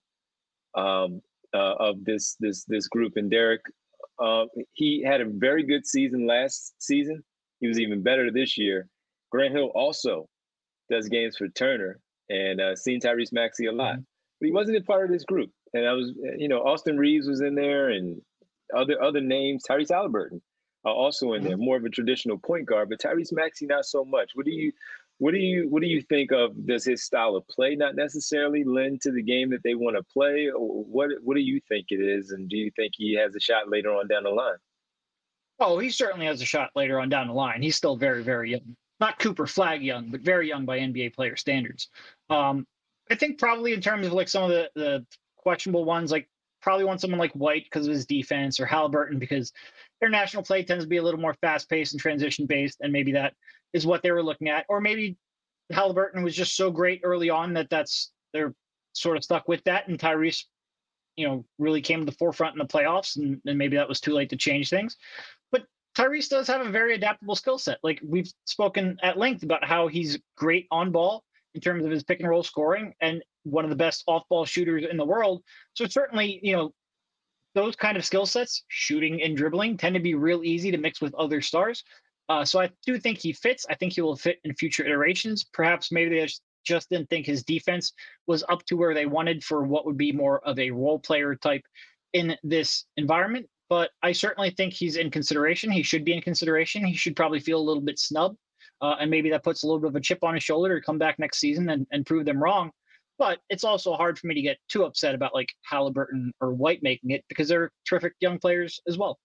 Speaker 1: of this group. And Derek, he had a very good season last season. He was even better this year. Grant Hill also does games for Turner and seen Tyrese Maxey a lot. But he wasn't a part of this group. And I was, Austin Reeves was in there and other names. Tyrese Halliburton also in there, more of a traditional point guard, but Tyrese Maxey not so much. What do you think of? Does his style of play not necessarily lend to the game that they want to play? Or what do you think it is? And do you think he has a shot later on down the line?
Speaker 2: Oh, he certainly has a shot later on down the line. He's still very, very young. Not Cooper Flagg young, but very young by NBA player standards. I think probably in terms of like some of the questionable ones, like probably want someone like White because of his defense, or Halliburton because international play tends to be a little more fast-paced and transition-based, and maybe that is what they were looking at. Or maybe Halliburton was just so great early on that they're sort of stuck with that, and Tyrese, really came to the forefront in the playoffs, and maybe that was too late to change things. But Tyrese does have a very adaptable skill set. Like we've spoken at length about how he's great on ball in terms of his pick and roll scoring and one of the best off-ball shooters in the world. So certainly, those kind of skill sets, shooting and dribbling, tend to be real easy to mix with other stars. So I do think he fits. I think he will fit in future iterations. Perhaps maybe they just didn't think his defense was up to where they wanted for what would be more of a role player type in this environment. But I certainly think he's in consideration. He should be in consideration. He should probably feel a little bit snubbed. And maybe that puts a little bit of a chip on his shoulder to come back next season and prove them wrong. But it's also hard for me to get too upset about like Halliburton or White making it because they're terrific young players as well.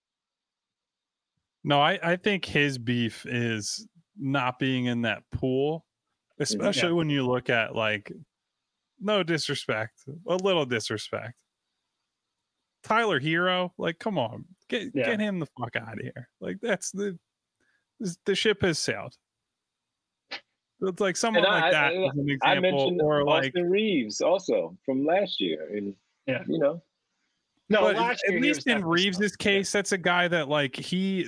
Speaker 3: No, I think his beef is not being in that pool, especially when you look at like, no disrespect, a little disrespect. Tyler Hero, like, come on, get him the fuck out of here. Like that's the ship has sailed. It's like someone like that as an example.
Speaker 1: I mentioned
Speaker 3: or
Speaker 1: Austin
Speaker 3: like
Speaker 1: Reeves also from last year, and
Speaker 2: No,
Speaker 3: but
Speaker 2: last year,
Speaker 3: at least in Reeves's case, that's a guy that like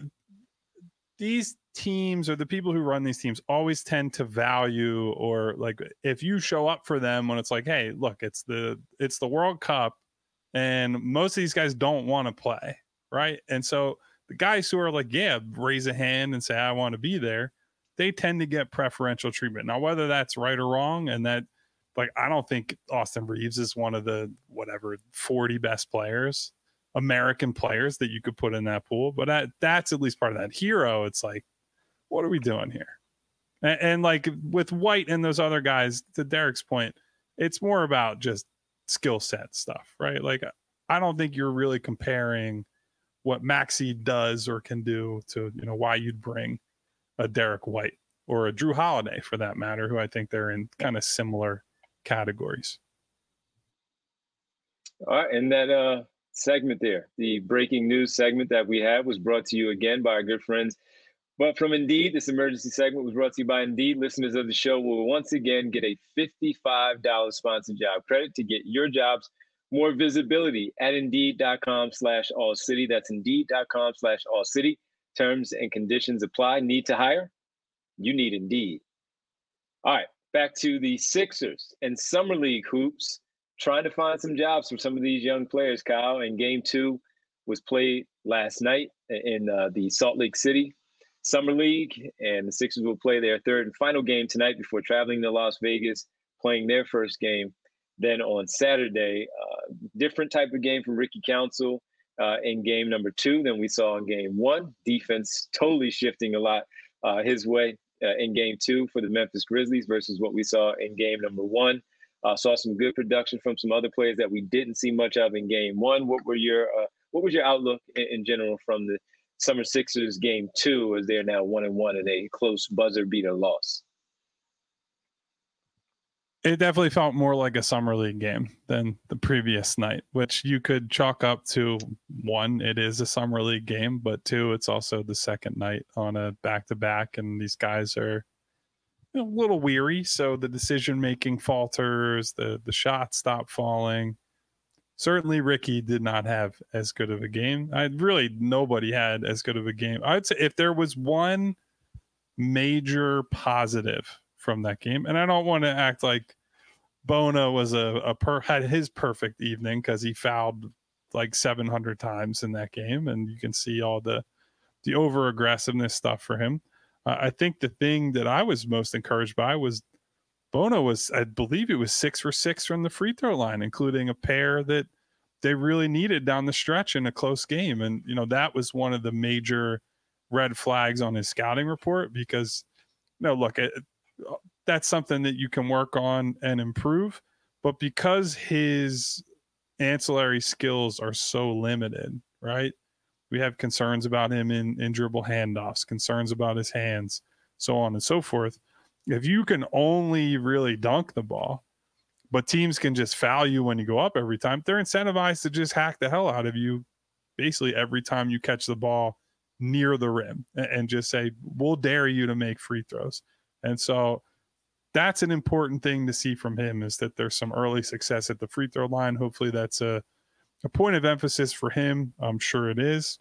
Speaker 3: these teams or the people who run these teams always tend to value, or like if you show up for them when it's like, hey, look, it's the World Cup, and most of these guys don't want to play, right? And so the guys who are like, raise a hand and say I want to be there, they tend to get preferential treatment. Now, whether that's right or wrong, and that, like, I don't think Austin Reeves is one of the 40 best players, American players that you could put in that pool, but that's at least part of that. Hero, it's like, what are we doing here? And like with White and those other guys, to Derek's point, it's more about just skill set stuff, right? Like, I don't think you're really comparing what Maxey does or can do to, why you'd bring a Derek White or a Drew Holiday for that matter, who I think they're in kind of similar categories.
Speaker 1: All right, and that segment there, the breaking news segment that we had, was brought to you again by our good friends. But from Indeed, this emergency segment was brought to you by Indeed. Listeners of the show will once again get a $55 sponsored job credit to get your jobs more visibility at Indeed.com/all-city. That's Indeed.com/all-city. Terms and conditions apply. Need to hire? You need Indeed. All right, back to the Sixers and Summer League hoops, trying to find some jobs for some of these young players, Kyle. And Game 2 was played last night in the Salt Lake City Summer League, and the Sixers will play their third and final game tonight before traveling to Las Vegas, playing their first game. Then on Saturday, different type of game from Ricky Council in game number 2 than we saw in game 1. Defense totally shifting a lot his way in game 2 for the Memphis Grizzlies versus what we saw in game number 1. Saw some good production from some other players that we didn't see much of in game 1. What was your outlook in general from the Summer Sixers game 2, as they're now 1-1 in a close buzzer beater loss?
Speaker 3: It definitely felt more like a summer league game than the previous night, which you could chalk up to, 1, it is a summer league game, but 2, it's also the second night on a back-to-back, and these guys are a little weary, so the decision-making falters, the shots stop falling. Certainly Ricky did not have as good of a game. Nobody had as good of a game. I'd say if there was one major positive from that game, and I don't want to act like Bona was had his perfect evening, because he fouled like 700 times in that game, and you can see all the over aggressiveness stuff for him. I think the thing that I was most encouraged by was Bona was, I believe it was 6 for 6 from the free throw line, including a pair that they really needed down the stretch in a close game. And, that was one of the major red flags on his scouting report, because, look, that's something that you can work on and improve. But because his ancillary skills are so limited, right? We have concerns about him in dribble handoffs, concerns about his hands, so on and so forth. If you can only really dunk the ball, but teams can just foul you when you go up every time, they're incentivized to just hack the hell out of you basically every time you catch the ball near the rim, and just say, we'll dare you to make free throws. And so that's an important thing to see from him, is that there's some early success at the free throw line. Hopefully that's a point of emphasis for him. I'm sure it is.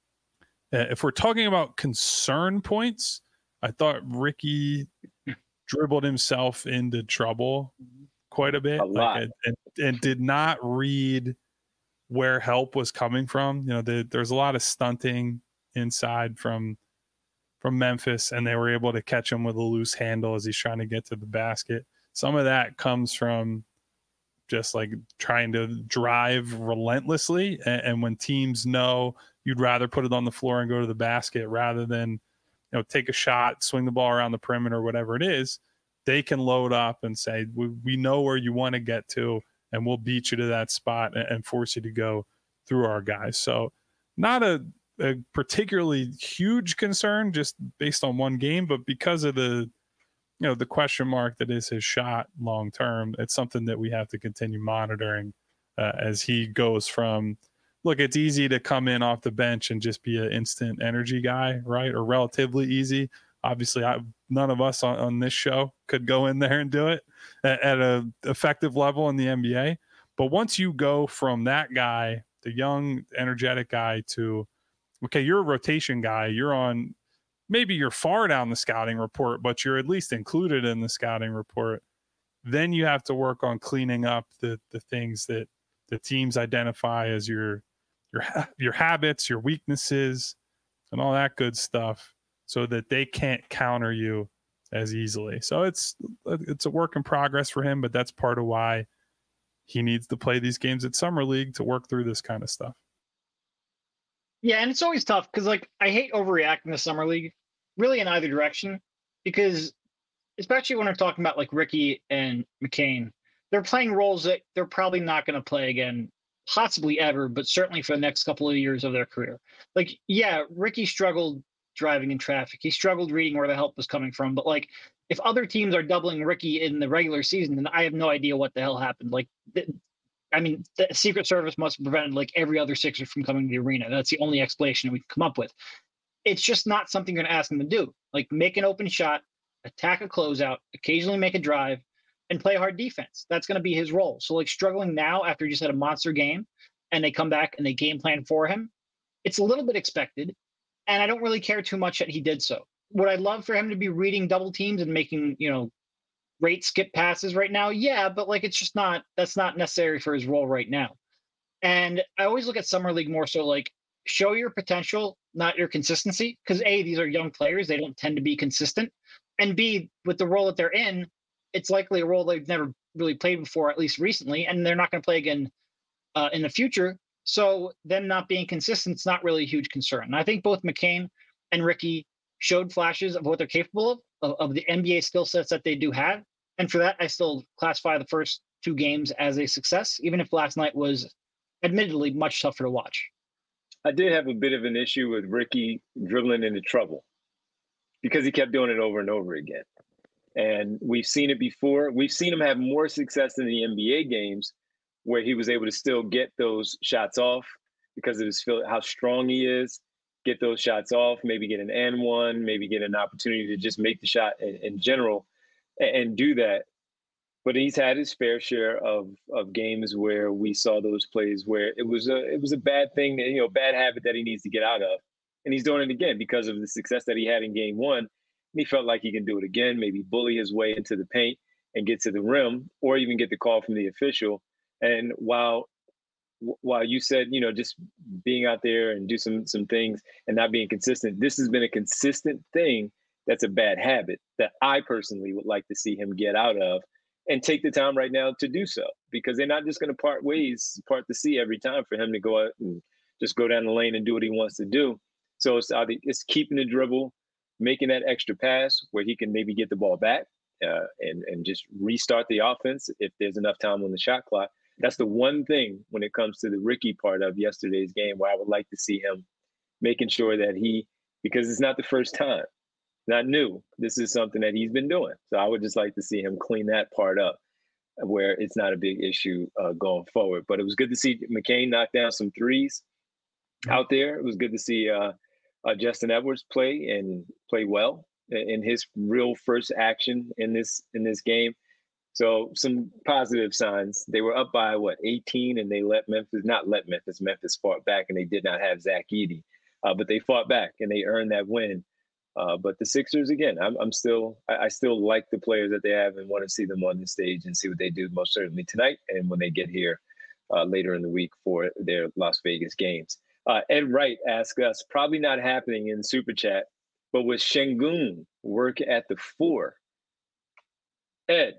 Speaker 3: If we're talking about concern points, I thought Ricky dribbled himself into trouble quite a bit, and did not read where help was coming from. There's a lot of stunting inside from Memphis, and they were able to catch him with a loose handle as he's trying to get to the basket. Some of that comes from just like trying to drive relentlessly, and when teams know you'd rather put it on the floor and go to the basket rather than take a shot, swing the ball around the perimeter, whatever it is, they can load up and say, we know where you want to get to, and we'll beat you to that spot and force you to go through our guys. So not a particularly huge concern just based on one game, but because of the question mark that is his shot long term, it's something that we have to continue monitoring as he goes from, look, it's easy to come in off the bench and just be an instant energy guy, right? Or relatively easy. Obviously, none of us on this show could go in there and do it at an effective level in the NBA. But once you go from that guy, the young, energetic guy, to, okay, you're a rotation guy, maybe you're far down the scouting report, but you're at least included in the scouting report. Then you have to work on cleaning up the things that the teams identify as your habits, your weaknesses, and all that good stuff, so that they can't counter you as easily. So it's a work in progress for him, but that's part of why he needs to play these games at Summer League to work through this kind of stuff.
Speaker 2: Yeah, and it's always tough because, like, I hate overreacting to Summer League really in either direction, because especially when we're talking about like Ricky and McCain, they're playing roles that they're probably not going to play again, possibly ever, but certainly for the next couple of years of their career. Like, yeah, Ricky struggled driving in traffic. He struggled reading where the help was coming from. But like, if other teams are doubling Ricky in the regular season, then I have no idea what the hell happened. Like, I mean, the Secret Service must have prevented like every other Sixer from coming to the arena. That's the only explanation we can come up with. It's just not something you're going to ask him to do. Like, make an open shot, attack a closeout, occasionally make a drive, and play hard defense. That's going to be his role. So like struggling now after he just had a monster game and they come back and they game plan for him, it's a little bit expected. And I don't really care too much that he did so. Would I love for him to be reading double teams and making, great skip passes right now? Yeah, but like, it's just not, that's not necessary for his role right now. And I always look at Summer League more so like, show your potential, not your consistency. Because A, these are young players. They don't tend to be consistent. And B, with the role that they're in, it's likely a role they've never really played before, at least recently, and they're not going to play again in the future. So them not being consistent is not really a huge concern. And I think both McCain and Ricky showed flashes of what they're capable of the NBA skill sets that they do have. And for that, I still classify the first two games as a success, even if last night was admittedly much tougher to watch.
Speaker 1: I did have a bit of an issue with Ricky dribbling into trouble because he kept doing it over and over again. And we've seen it before. We've seen him have more success in the NBA games where he was able to still get those shots off because of his how strong he is, get those shots off, maybe get an and one, maybe get an opportunity to just make the shot in general and do that. But he's had his fair share of games where we saw those plays where it was a bad thing, bad habit that he needs to get out of. And he's doing it again because of the success that he had in game one. And he felt like he can do it again, maybe bully his way into the paint and get to the rim, or even get the call from the official. And while you said, just being out there and do some things and not being consistent, this has been a consistent thing that's a bad habit that I personally would like to see him get out of and take the time right now to do so, because they're not just going to part the sea every time for him to go out and just go down the lane and do what he wants to do. So it's keeping the dribble, making that extra pass where he can maybe get the ball back and just restart the offense if there's enough time on the shot clock. That's the one thing when it comes to the Ricky part of yesterday's game where I would like to see him making sure that because it's not the first time, not new. This is something that he's been doing. So I would just like to see him clean that part up where it's not a big issue going forward. But it was good to see McCain knock down some threes out there. It was good to see Justin Edwards play well in his real first action in this game. So some positive signs. They were up by 18, and they Memphis fought back, and they did not have Zach Edey, but they fought back and they earned that win. But the Sixers, again, I still like the players that they have and want to see them on the stage and see what they do most certainly tonight and when they get here later in the week for their Las Vegas games. Ed Wright asked us, probably not happening in Super Chat, but was Şengün work at the 4? Ed,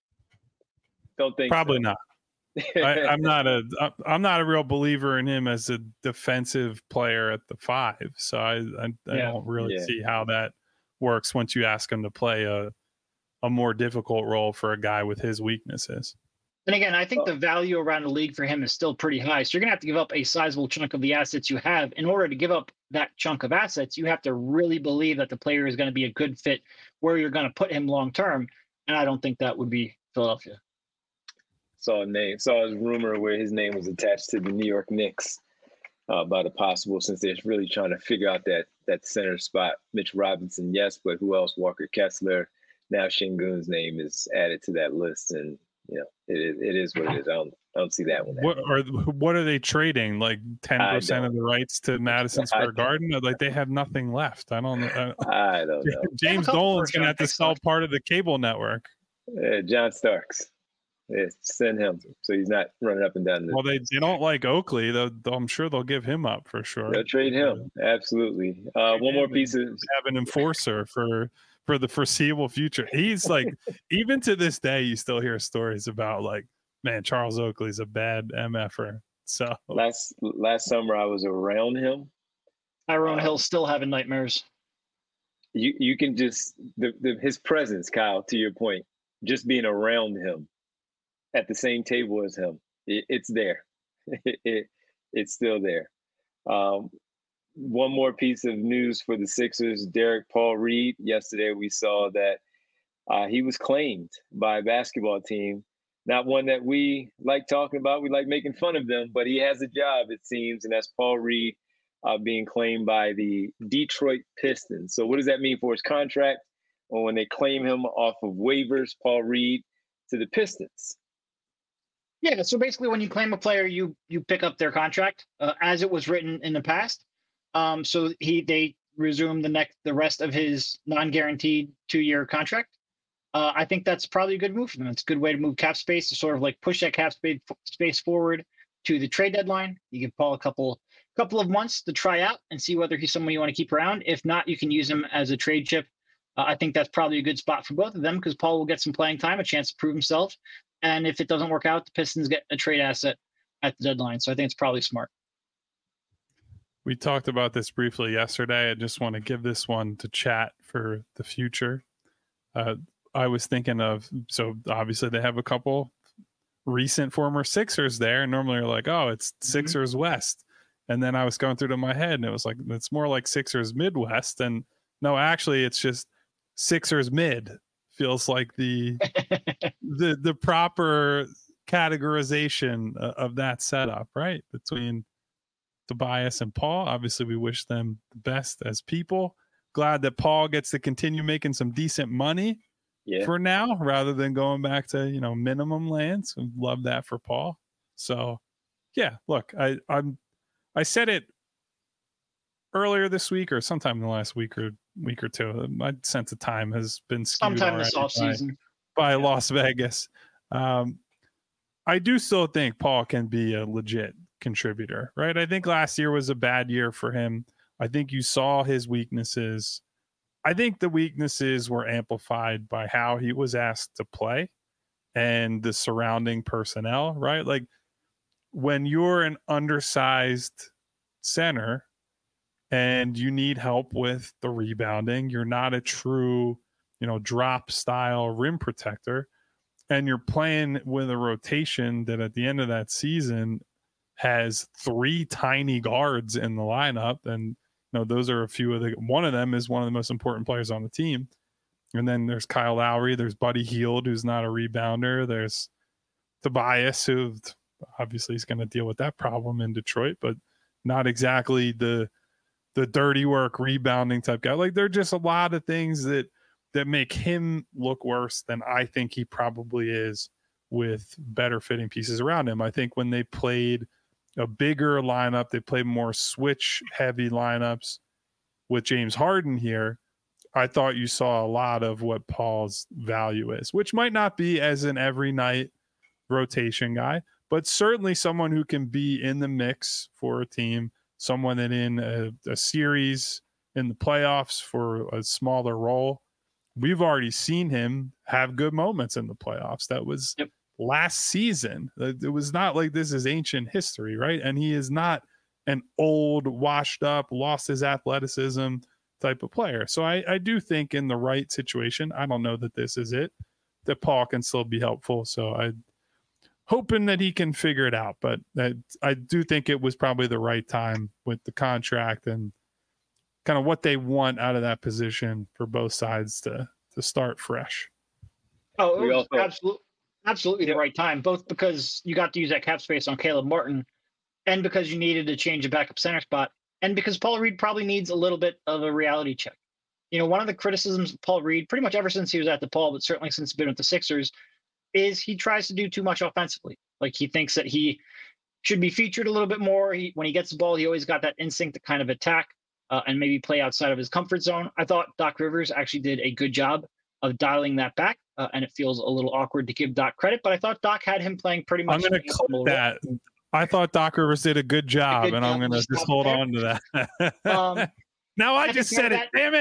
Speaker 1: don't think
Speaker 3: probably
Speaker 1: so.
Speaker 3: Not. I'm not a real believer in him as a defensive player at the 5. So I don't really see how that works once you ask him to play a more difficult role for a guy with his weaknesses.
Speaker 2: And again, I think the value around the league for him is still pretty high. So you're going to have to give up a sizable chunk of the assets you have. In order to give up that chunk of assets, you have to really believe that the player is going to be a good fit where you're going to put him long term. And I don't think that would be Philadelphia.
Speaker 1: Saw his rumor where his name was attached to the New York Knicks about a possible, since they're really trying to figure out that center spot. Mitch Robinson, yes, but who else? Walker Kessler. Now Şengün's name is added to that list, and it is what it is. I don't see that one.
Speaker 3: What are they trading? Like 10% of the rights to Madison Square Garden? Like they have nothing left. I don't know.
Speaker 1: I don't know.
Speaker 3: James Dolan's going to have to sell part of the cable network.
Speaker 1: John Starks. Yeah, send him so he's not running up and down.
Speaker 3: Well, they don't like Oakley. I'm sure they'll give him up for sure.
Speaker 1: They'll trade him. Absolutely. One more piece of
Speaker 3: have an enforcer for the foreseeable future. He's like, even to this day, you still hear stories about like, man, Charles Oakley's a bad MFer. So
Speaker 1: last summer I was around him.
Speaker 2: Tyrone Hill's still having nightmares.
Speaker 1: you can just his presence, Kyle, to your point, just being around him at the same table as him, it's there. It's still there. One more piece of news for the Sixers: Paul Reed. Yesterday, we saw that he was claimed by a basketball team. Not one that we like talking about. We like making fun of them, but he has a job, it seems, and that's Paul Reed being claimed by the Detroit Pistons. So what does that mean for his contract? Or when they claim him off of waivers, Paul Reed to the Pistons?
Speaker 2: Yeah, so basically when you claim a player, you pick up their contract as it was written in the past. So they resume the rest of his non-guaranteed 2-year contract. I think that's probably a good move for them. It's a good way to move cap space to sort of like push that cap space forward to the trade deadline. You give Paul a couple of months to try out and see whether he's someone you want to keep around. If not, you can use him as a trade chip. I think that's probably a good spot for both of them because Paul will get some playing time, a chance to prove himself. And if it doesn't work out, the Pistons get a trade asset at the deadline. So I think it's probably smart.
Speaker 3: We talked about this briefly yesterday. I just want to give this one to chat for the future. I was thinking of, so obviously they have a couple recent former Sixers there. And normally you're like, oh, it's Sixers West. And then I was going through to my head and it was like, it's more like Sixers Midwest. And no, actually it's just Sixers Mid. Feels like the proper categorization of that setup, right? Between Tobias and Paul. Obviously, we wish them the best as people. Glad that Paul gets to continue making some decent money for now, rather than going back to minimum lands. Love that for Paul. So, yeah, look, I said it earlier this week or sometime in the last week or two. My sense of time has been skewed
Speaker 2: sometime this offseason
Speaker 3: by Las Vegas. I do still think Paul can be a legit contributor, right? I think last year was a bad year for him. I think you saw his weaknesses. I think the weaknesses were amplified by how he was asked to play and the surrounding personnel, right? Like when you're an undersized center and you need help with the rebounding, you're not a true, drop style rim protector, and you're playing with a rotation that at the end of that season has 3 tiny guards in the lineup. And, those are a few of one of them is one of the most important players on the team. And then there's Kyle Lowry, there's Buddy Hield, who's not a rebounder. There's Tobias, who obviously is going to deal with that problem in Detroit, but not exactly the dirty work rebounding type guy. Like there are just a lot of things that make him look worse than I think he probably is with better fitting pieces around him. I think when they played a bigger lineup, they played more switch heavy lineups with James Harden here. I thought you saw a lot of what Paul's value is, which might not be as an every night rotation guy, but certainly someone who can be in the mix for a team, someone that in a series in the playoffs for a smaller role. We've already seen him have good moments in the playoffs. That was last season. It was not like this is ancient history, right? And he is not an old, washed up, lost his athleticism type of player. So I do think in the right situation, I don't know that this is it, that Paul can still be helpful. So I'm hoping that he can figure it out. But I do think it was probably the right time with the contract and kind of what they want out of that position for both sides to start fresh.
Speaker 2: Oh, it was absolutely the right time, both because you got to use that cap space on Caleb Martin and because you needed to change a backup center spot and because Paul Reed probably needs a little bit of a reality check. One of the criticisms of Paul Reed, pretty much ever since he was at DePaul, but certainly since he's been with the Sixers, is he tries to do too much offensively. Like he thinks that he should be featured a little bit more. When he gets the ball, he always got that instinct to kind of attack and maybe play outside of his comfort zone. I thought Doc Rivers actually did a good job of dialing that back, and it feels a little awkward to give Doc credit, but I thought Doc had him playing pretty much.
Speaker 3: I'm going to clip that. I thought Doc Rivers did a good job, and I'm going to just hold on to that. Now I just said it. Damn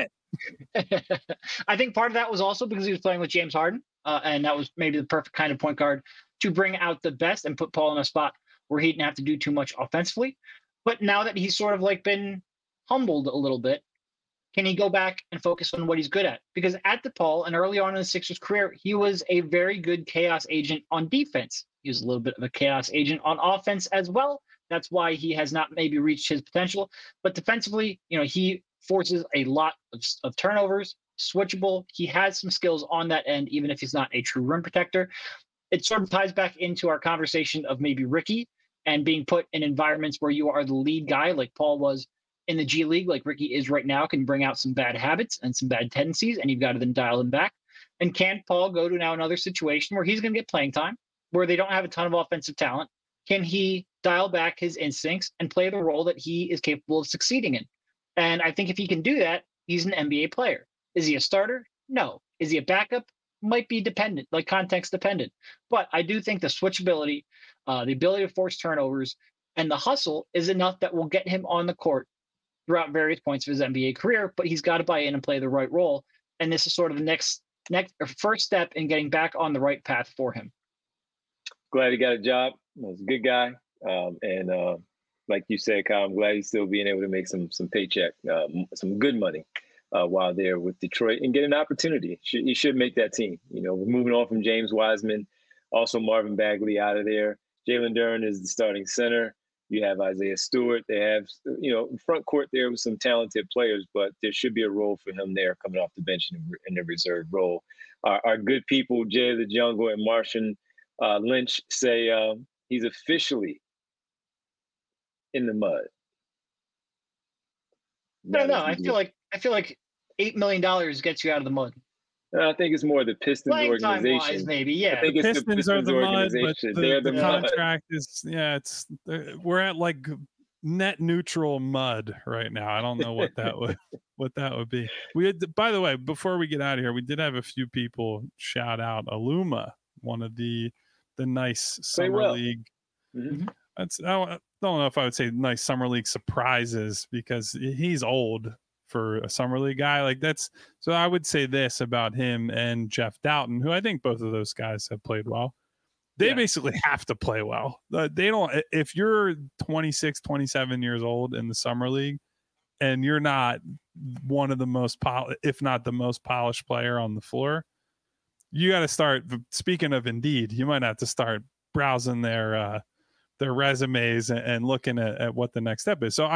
Speaker 3: it.
Speaker 2: I think part of that was also because he was playing with James Harden, and that was maybe the perfect kind of point guard to bring out the best and put Paul in a spot where he didn't have to do too much offensively. But now that he's sort of like been humbled a little bit, Can he go back and focus on what he's good at? Because at DePaul and early on in the Sixers career, he was a very good chaos agent on defense. He was a little bit of a chaos agent on offense as well. That's why he has not maybe reached his potential. But defensively, he forces a lot of turnovers, switchable. He has some skills on that end, even if he's not a true rim protector. It sort of ties back into our conversation of maybe Ricky and being put in environments where you are the lead guy, like Paul was in the G League, like Ricky is right now, can bring out some bad habits and some bad tendencies, and you've got to then dial them back. And can Paul go to now another situation where he's going to get playing time, where they don't have a ton of offensive talent? Can he dial back his instincts and play the role that he is capable of succeeding in? And I think if he can do that, he's an NBA player. Is he a starter? No. Is he a backup? Might be dependent, like context dependent. But I do think the switchability, the ability to force turnovers, and the hustle is enough that will get him on the court throughout various points of his NBA career, but he's got to buy in and play the right role. And this is sort of the next first step in getting back on the right path for him.
Speaker 1: Glad he got a job. He's a good guy. And like you said, Kyle, I'm glad he's still being able to make some paycheck, some good money while there with Detroit and get an opportunity. He should make that team. We're moving on from James Wiseman, also Marvin Bagley out of there. Jalen Duren is the starting center. You have Isaiah Stewart. They have, front court there with some talented players, but there should be a role for him there coming off the bench in the reserve role. Our good people, Jay the Jungle and Martian Lynch, say he's officially in the mud.
Speaker 2: No, I feel like $8 million gets you out of the mud.
Speaker 1: I think it's more the Pistons organization.
Speaker 2: Wise, maybe, yeah.
Speaker 1: I think it's
Speaker 3: Pistons
Speaker 1: the Pistons
Speaker 3: are the mud, but
Speaker 1: they're the
Speaker 3: contract is we're at like net neutral mud right now. I don't know what that would be. We had, by the way, before we get out of here, we did have a few people shout out Aluma, one of the nice summer league.
Speaker 1: Mm-hmm.
Speaker 3: I don't know if I would say nice summer league surprises because he's old for a summer league guy like that's. So I would say this about him and Jeff Doughton, who I think both of those guys have played well. They basically have to play well. They don't, if you're 26, 27 years old in the summer league and you're not one of the most, if not the most polished player on the floor, you got to start, speaking of Indeed, you might have to start browsing their resumes and looking at what the next step is. So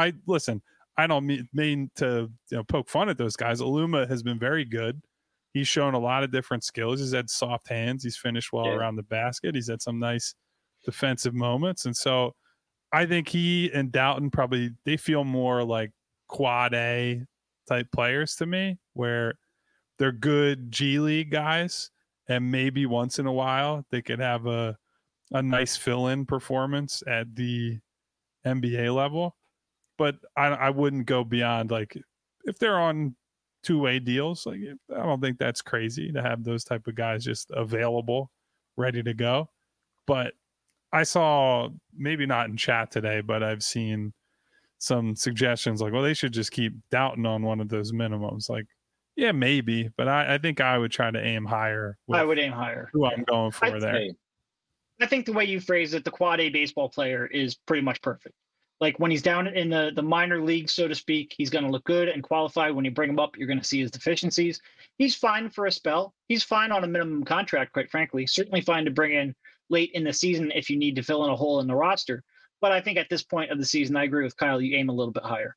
Speaker 3: I don't mean to poke fun at those guys. Aluma has been very good. He's shown a lot of different skills. He's had soft hands. He's finished well around the basket. He's had some nice defensive moments. And so I think he and Doughton they feel more like quad A type players to me, where they're good G League guys. And maybe once in a while they could have a nice fill-in performance at the NBA level. But I wouldn't go beyond, like, if they're on two-way deals, like, I don't think that's crazy to have those type of guys just available, ready to go. But I saw, maybe not in chat today, but I've seen some suggestions like, well, they should just keep Doughton on one of those minimums. Like, yeah, maybe, but I think I would try to aim higher.
Speaker 2: I would aim higher.
Speaker 3: Who I'm going for there.
Speaker 2: I think the way you phrase it, the quad A baseball player is pretty much perfect. Like when he's down in the minor league, so to speak, he's going to look good and qualify. When you bring him up, you're going to see his deficiencies. He's fine for a spell. He's fine on a minimum contract, quite frankly. Certainly fine to bring in late in the season if you need to fill in a hole in the roster. But I think at this point of the season, I agree with Kyle. You aim a little bit higher.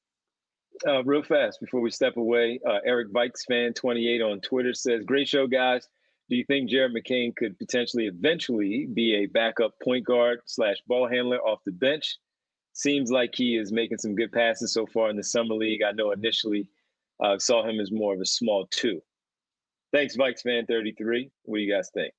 Speaker 1: Real fast before we step away, Eric Vikes fan 28 on Twitter says, "Great show, guys. Do you think Jared McCain could potentially eventually be a backup point guard / ball handler off the bench? Seems like he is making some good passes so far in the summer league. I know initially saw him as more of a small 2. Thanks, Vikes fan 33. What do you guys think?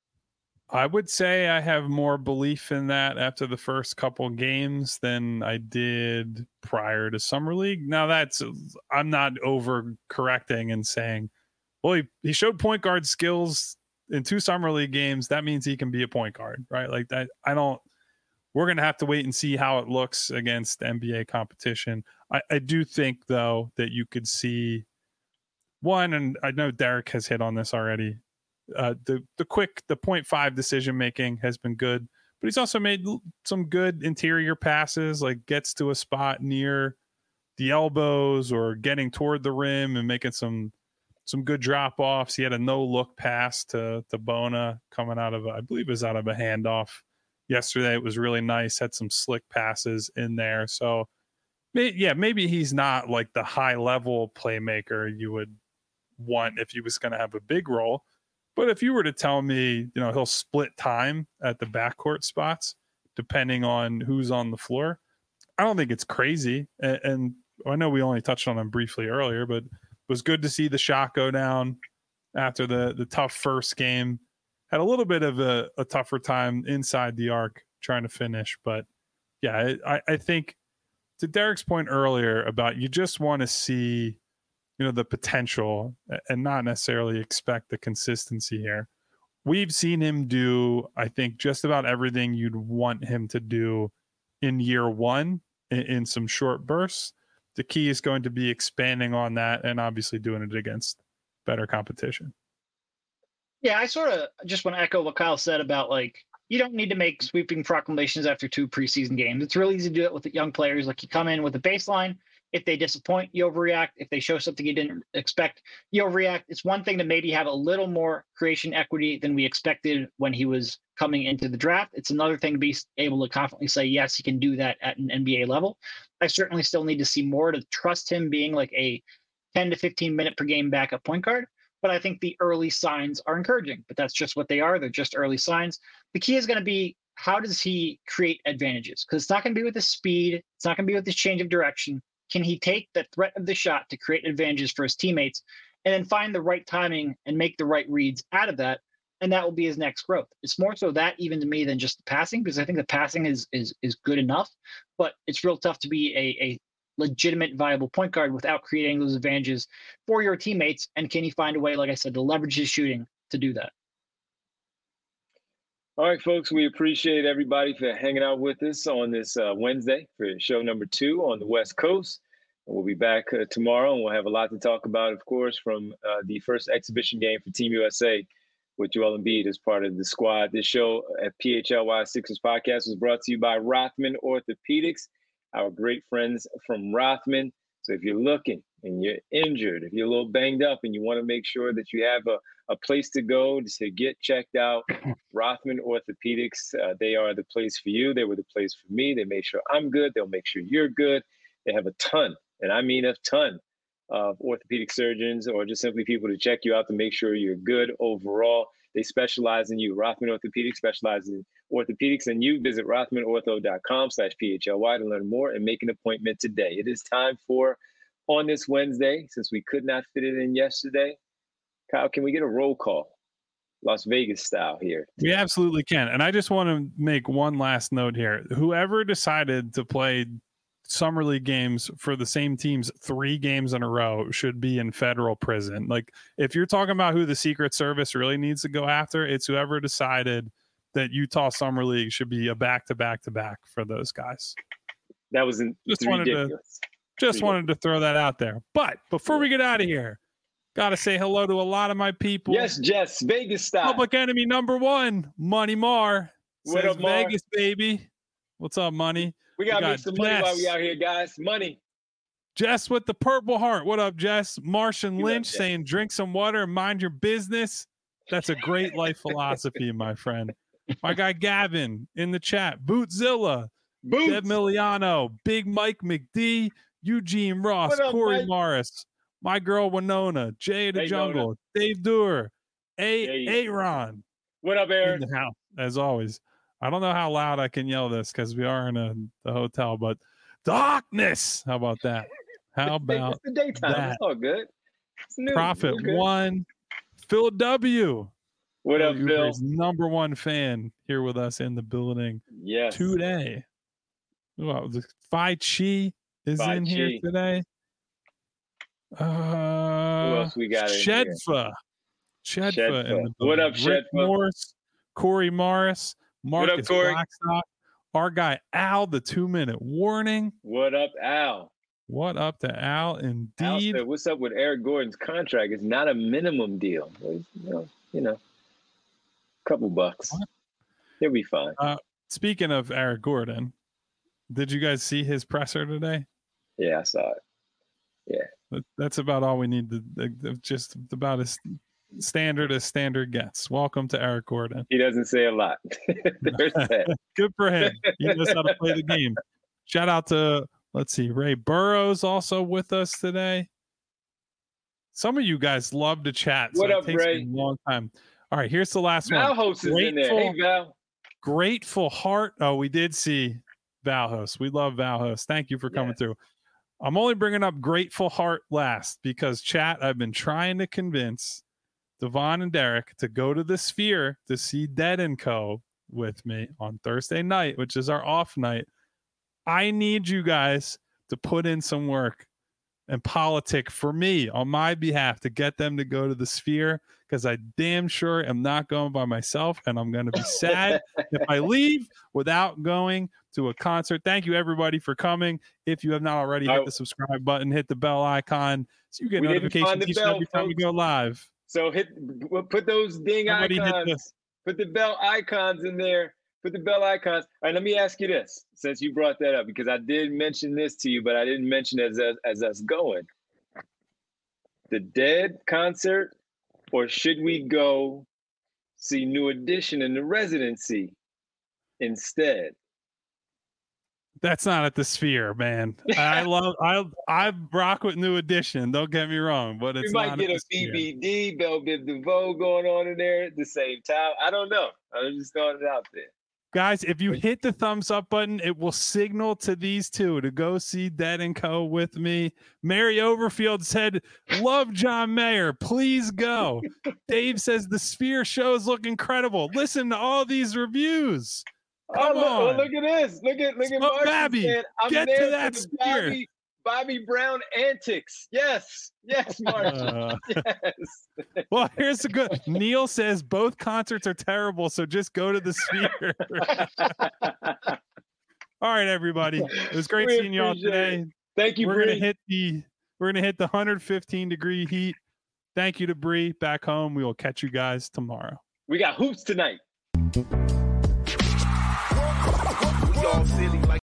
Speaker 3: I would say I have more belief in that after the first couple games than I did prior to summer league. Now I'm not overcorrecting and saying, well, he showed point guard skills in 2 summer league games. That means he can be a point guard, right? Like that. We're going to have to wait and see how it looks against NBA competition. I do think, though, that you could see one, and I know Derek has hit on this already, the 0.5 decision-making has been good, but he's also made some good interior passes, like gets to a spot near the elbows or getting toward the rim and making some good drop offs. He had a no look pass to Bona coming out of I believe it was out of a handoff yesterday. It was really nice. Had some slick passes in there. So maybe he's not like the high level playmaker you would want if he was going to have a big role. But if you were to tell me, he'll split time at the backcourt spots, depending on who's on the floor, I don't think it's crazy. And I know we only touched on him briefly earlier, but it was good to see the shot go down after the tough first game. Had a little bit of a tougher time inside the arc trying to finish. But yeah, I think to Derek's point earlier about you just want to see the potential and not necessarily expect the consistency here. We've seen him do, I think, just about everything you'd want him to do in year one in some short bursts. The key is going to be expanding on that and obviously doing it against better competition.
Speaker 2: Yeah, I sort of just want to echo what Kyle said about you don't need to make sweeping proclamations after 2 preseason games. It's really easy to do it with the young players. You come in with a baseline. If they disappoint, you overreact. If they show something you didn't expect, you overreact. It's one thing to maybe have a little more creation equity than we expected when he was coming into the draft. It's another thing to be able to confidently say, yes, he can do that at an NBA level. I certainly still need to see more to trust him being a 10 to 15 minute per game backup point guard. But I think the early signs are encouraging. But that's just what they are. They're just early signs. The key is going to be, how does he create advantages? Because it's not going to be with his speed. It's not going to be with his change of direction. Can he take the threat of the shot to create advantages for his teammates and then find the right timing and make the right reads out of that? And that will be his next growth. It's more so that even to me than just the passing, because I think the passing is good enough, but it's real tough to be a legitimate, viable point guard without creating those advantages for your teammates. And can he find a way, like I said, to leverage his shooting to do that?
Speaker 1: All right, folks, we appreciate everybody for hanging out with us on this Wednesday for show number 2 on the West Coast. And we'll be back tomorrow, and we'll have a lot to talk about, of course, from the first exhibition game for Team USA with Joel Embiid as part of the squad. This show at PHLY Sixers Podcast was brought to you by Rothman Orthopedics, our great friends from Rothman. So if you're looking and you're injured, if you're a little banged up and you want to make sure that you have a place to go to get checked out, Rothman Orthopedics, they are the place for you. They were the place for me. They make sure I'm good. They'll make sure you're good. They have a ton, and I mean a ton, of orthopedic surgeons or just simply people to check you out to make sure you're good overall. They specialize in you. Rothman Orthopedics specializes in orthopedics, and you visit rothmanortho.com/PHLY to learn more and make an appointment today. It is time for On This Wednesday, since we could not fit it in yesterday. Kyle, can we get a roll call? Las Vegas style here.
Speaker 3: We absolutely can. And I just want to make one last note here. Whoever decided to play summer league games for the same teams 3 games in a row should be in federal prison. If you're talking about who the Secret Service really needs to go after, it's whoever decided that Utah Summer League should be a back-to-back-to-back for those guys.
Speaker 1: That was ridiculous.
Speaker 3: Wanted to throw that out there. But before we get out of here, got to say hello to a lot of my people.
Speaker 1: Yes, Jess, Vegas style.
Speaker 3: Public enemy number 1, Money Mar.
Speaker 1: What up, Mar?
Speaker 3: Vegas, baby. What's up, Money?
Speaker 1: We got to make some money while we out here, guys. Money.
Speaker 3: Jess with the Purple Heart. What up, Jess? Martian Lynch saying, drink some water and mind your business. That's a great life philosophy, my friend. My guy Gavin in the chat. Bootzilla.
Speaker 1: Boots.
Speaker 3: Deb Miliano. Big Mike McD. Eugene Ross.
Speaker 1: Up,
Speaker 3: Corey
Speaker 1: Mike?
Speaker 3: Morris. My girl Winona. Jay the Jungle.
Speaker 1: Nona.
Speaker 3: Dave Doer. Aaron.
Speaker 1: What up, Aaron?
Speaker 3: In the house, as always. I don't know how loud I can yell this because we are in the hotel, but darkness. How about that? How about
Speaker 1: it's the daytime?
Speaker 3: that?
Speaker 1: It's all good. It's new.
Speaker 3: Profit 1. Phil W.
Speaker 1: What up, Phil?
Speaker 3: Number 1 fan here with us in the building.
Speaker 1: Yes.
Speaker 3: Today. Well, the Phi Chi is in here today.
Speaker 1: Who else we got in here?
Speaker 3: Shedfa in the building.
Speaker 1: What up,
Speaker 3: Rick
Speaker 1: Shedfa?
Speaker 3: Morris, Corey Morris, Marcus
Speaker 1: Corey?
Speaker 3: Blackstock, our guy Al, the 2-minute warning.
Speaker 1: What up, Al?
Speaker 3: What up to Al? Indeed.
Speaker 1: Al said, what's up with Eric Gordon's contract? It's not a minimum deal. Couple bucks.
Speaker 3: What?
Speaker 1: He'll be fine.
Speaker 3: Speaking of Eric Gordon, did you guys see his presser today?
Speaker 1: Yeah, I saw it. Yeah.
Speaker 3: That's about all we need. Just about as standard gets. Welcome to Eric Gordon.
Speaker 1: He doesn't say a lot. There's that.
Speaker 3: Good for him. He knows how to play the game. Shout out to, let's see, Ray Burrows also with us today. Some of you guys love to chat.
Speaker 1: What
Speaker 3: so
Speaker 1: up,
Speaker 3: it takes
Speaker 1: Ray?
Speaker 3: me a long time. All right, here's the last
Speaker 1: Val
Speaker 3: one.
Speaker 1: Host is in there. Hey, Val.
Speaker 3: Grateful Heart. Oh, we did see Val Host. We love Val Host. Thank you for coming through. I'm only bringing up Grateful Heart last because, chat, I've been trying to convince Devon and Derek to go to the Sphere to see Dead & Co. with me on Thursday night, which is our off night. I need you guys to put in some work and politic for me on my behalf to get them to go to the Sphere, because I damn sure am not going by myself, and I'm going to be sad if I leave without going to a concert. Thank you, everybody, for coming. If you have not already, hit the subscribe button, hit the bell icon so you get notifications each and every time we go live.
Speaker 1: So put those ding icons, put the bell icons in there. Put the bell icons. All right, let me ask you this, since you brought that up, because I did mention this to you, but I didn't mention it as us going. The Dead concert, or should we go see New Edition in the residency instead?
Speaker 3: That's not at the Sphere, man. I rock with New Edition. Don't get me wrong, but it's not. We might get a
Speaker 1: BBD, Belle Biv DeVoe going on in there at the same time. I don't know. I just throwing it out there.
Speaker 3: Guys, if you hit the thumbs up button, it will signal to these two to go see Dead & Co. with me. Mary Overfield said, love John Mayer. Please go. Dave says, the Sphere shows look incredible. Listen to all these reviews. Come on.
Speaker 1: Look at this. Look at Marcy.
Speaker 3: Babby, get to that Sphere.
Speaker 1: Bobby Brown antics. Yes, Marcy. Yes.
Speaker 3: Well, here's the good. Neil says both concerts are terrible, so just go to the Sphere. All right, everybody. It was great seeing y'all today.
Speaker 1: Thank you.
Speaker 3: We're gonna hit the 115 degree heat. Thank you to Bree back home. We will catch you guys tomorrow.
Speaker 1: We got hoops tonight.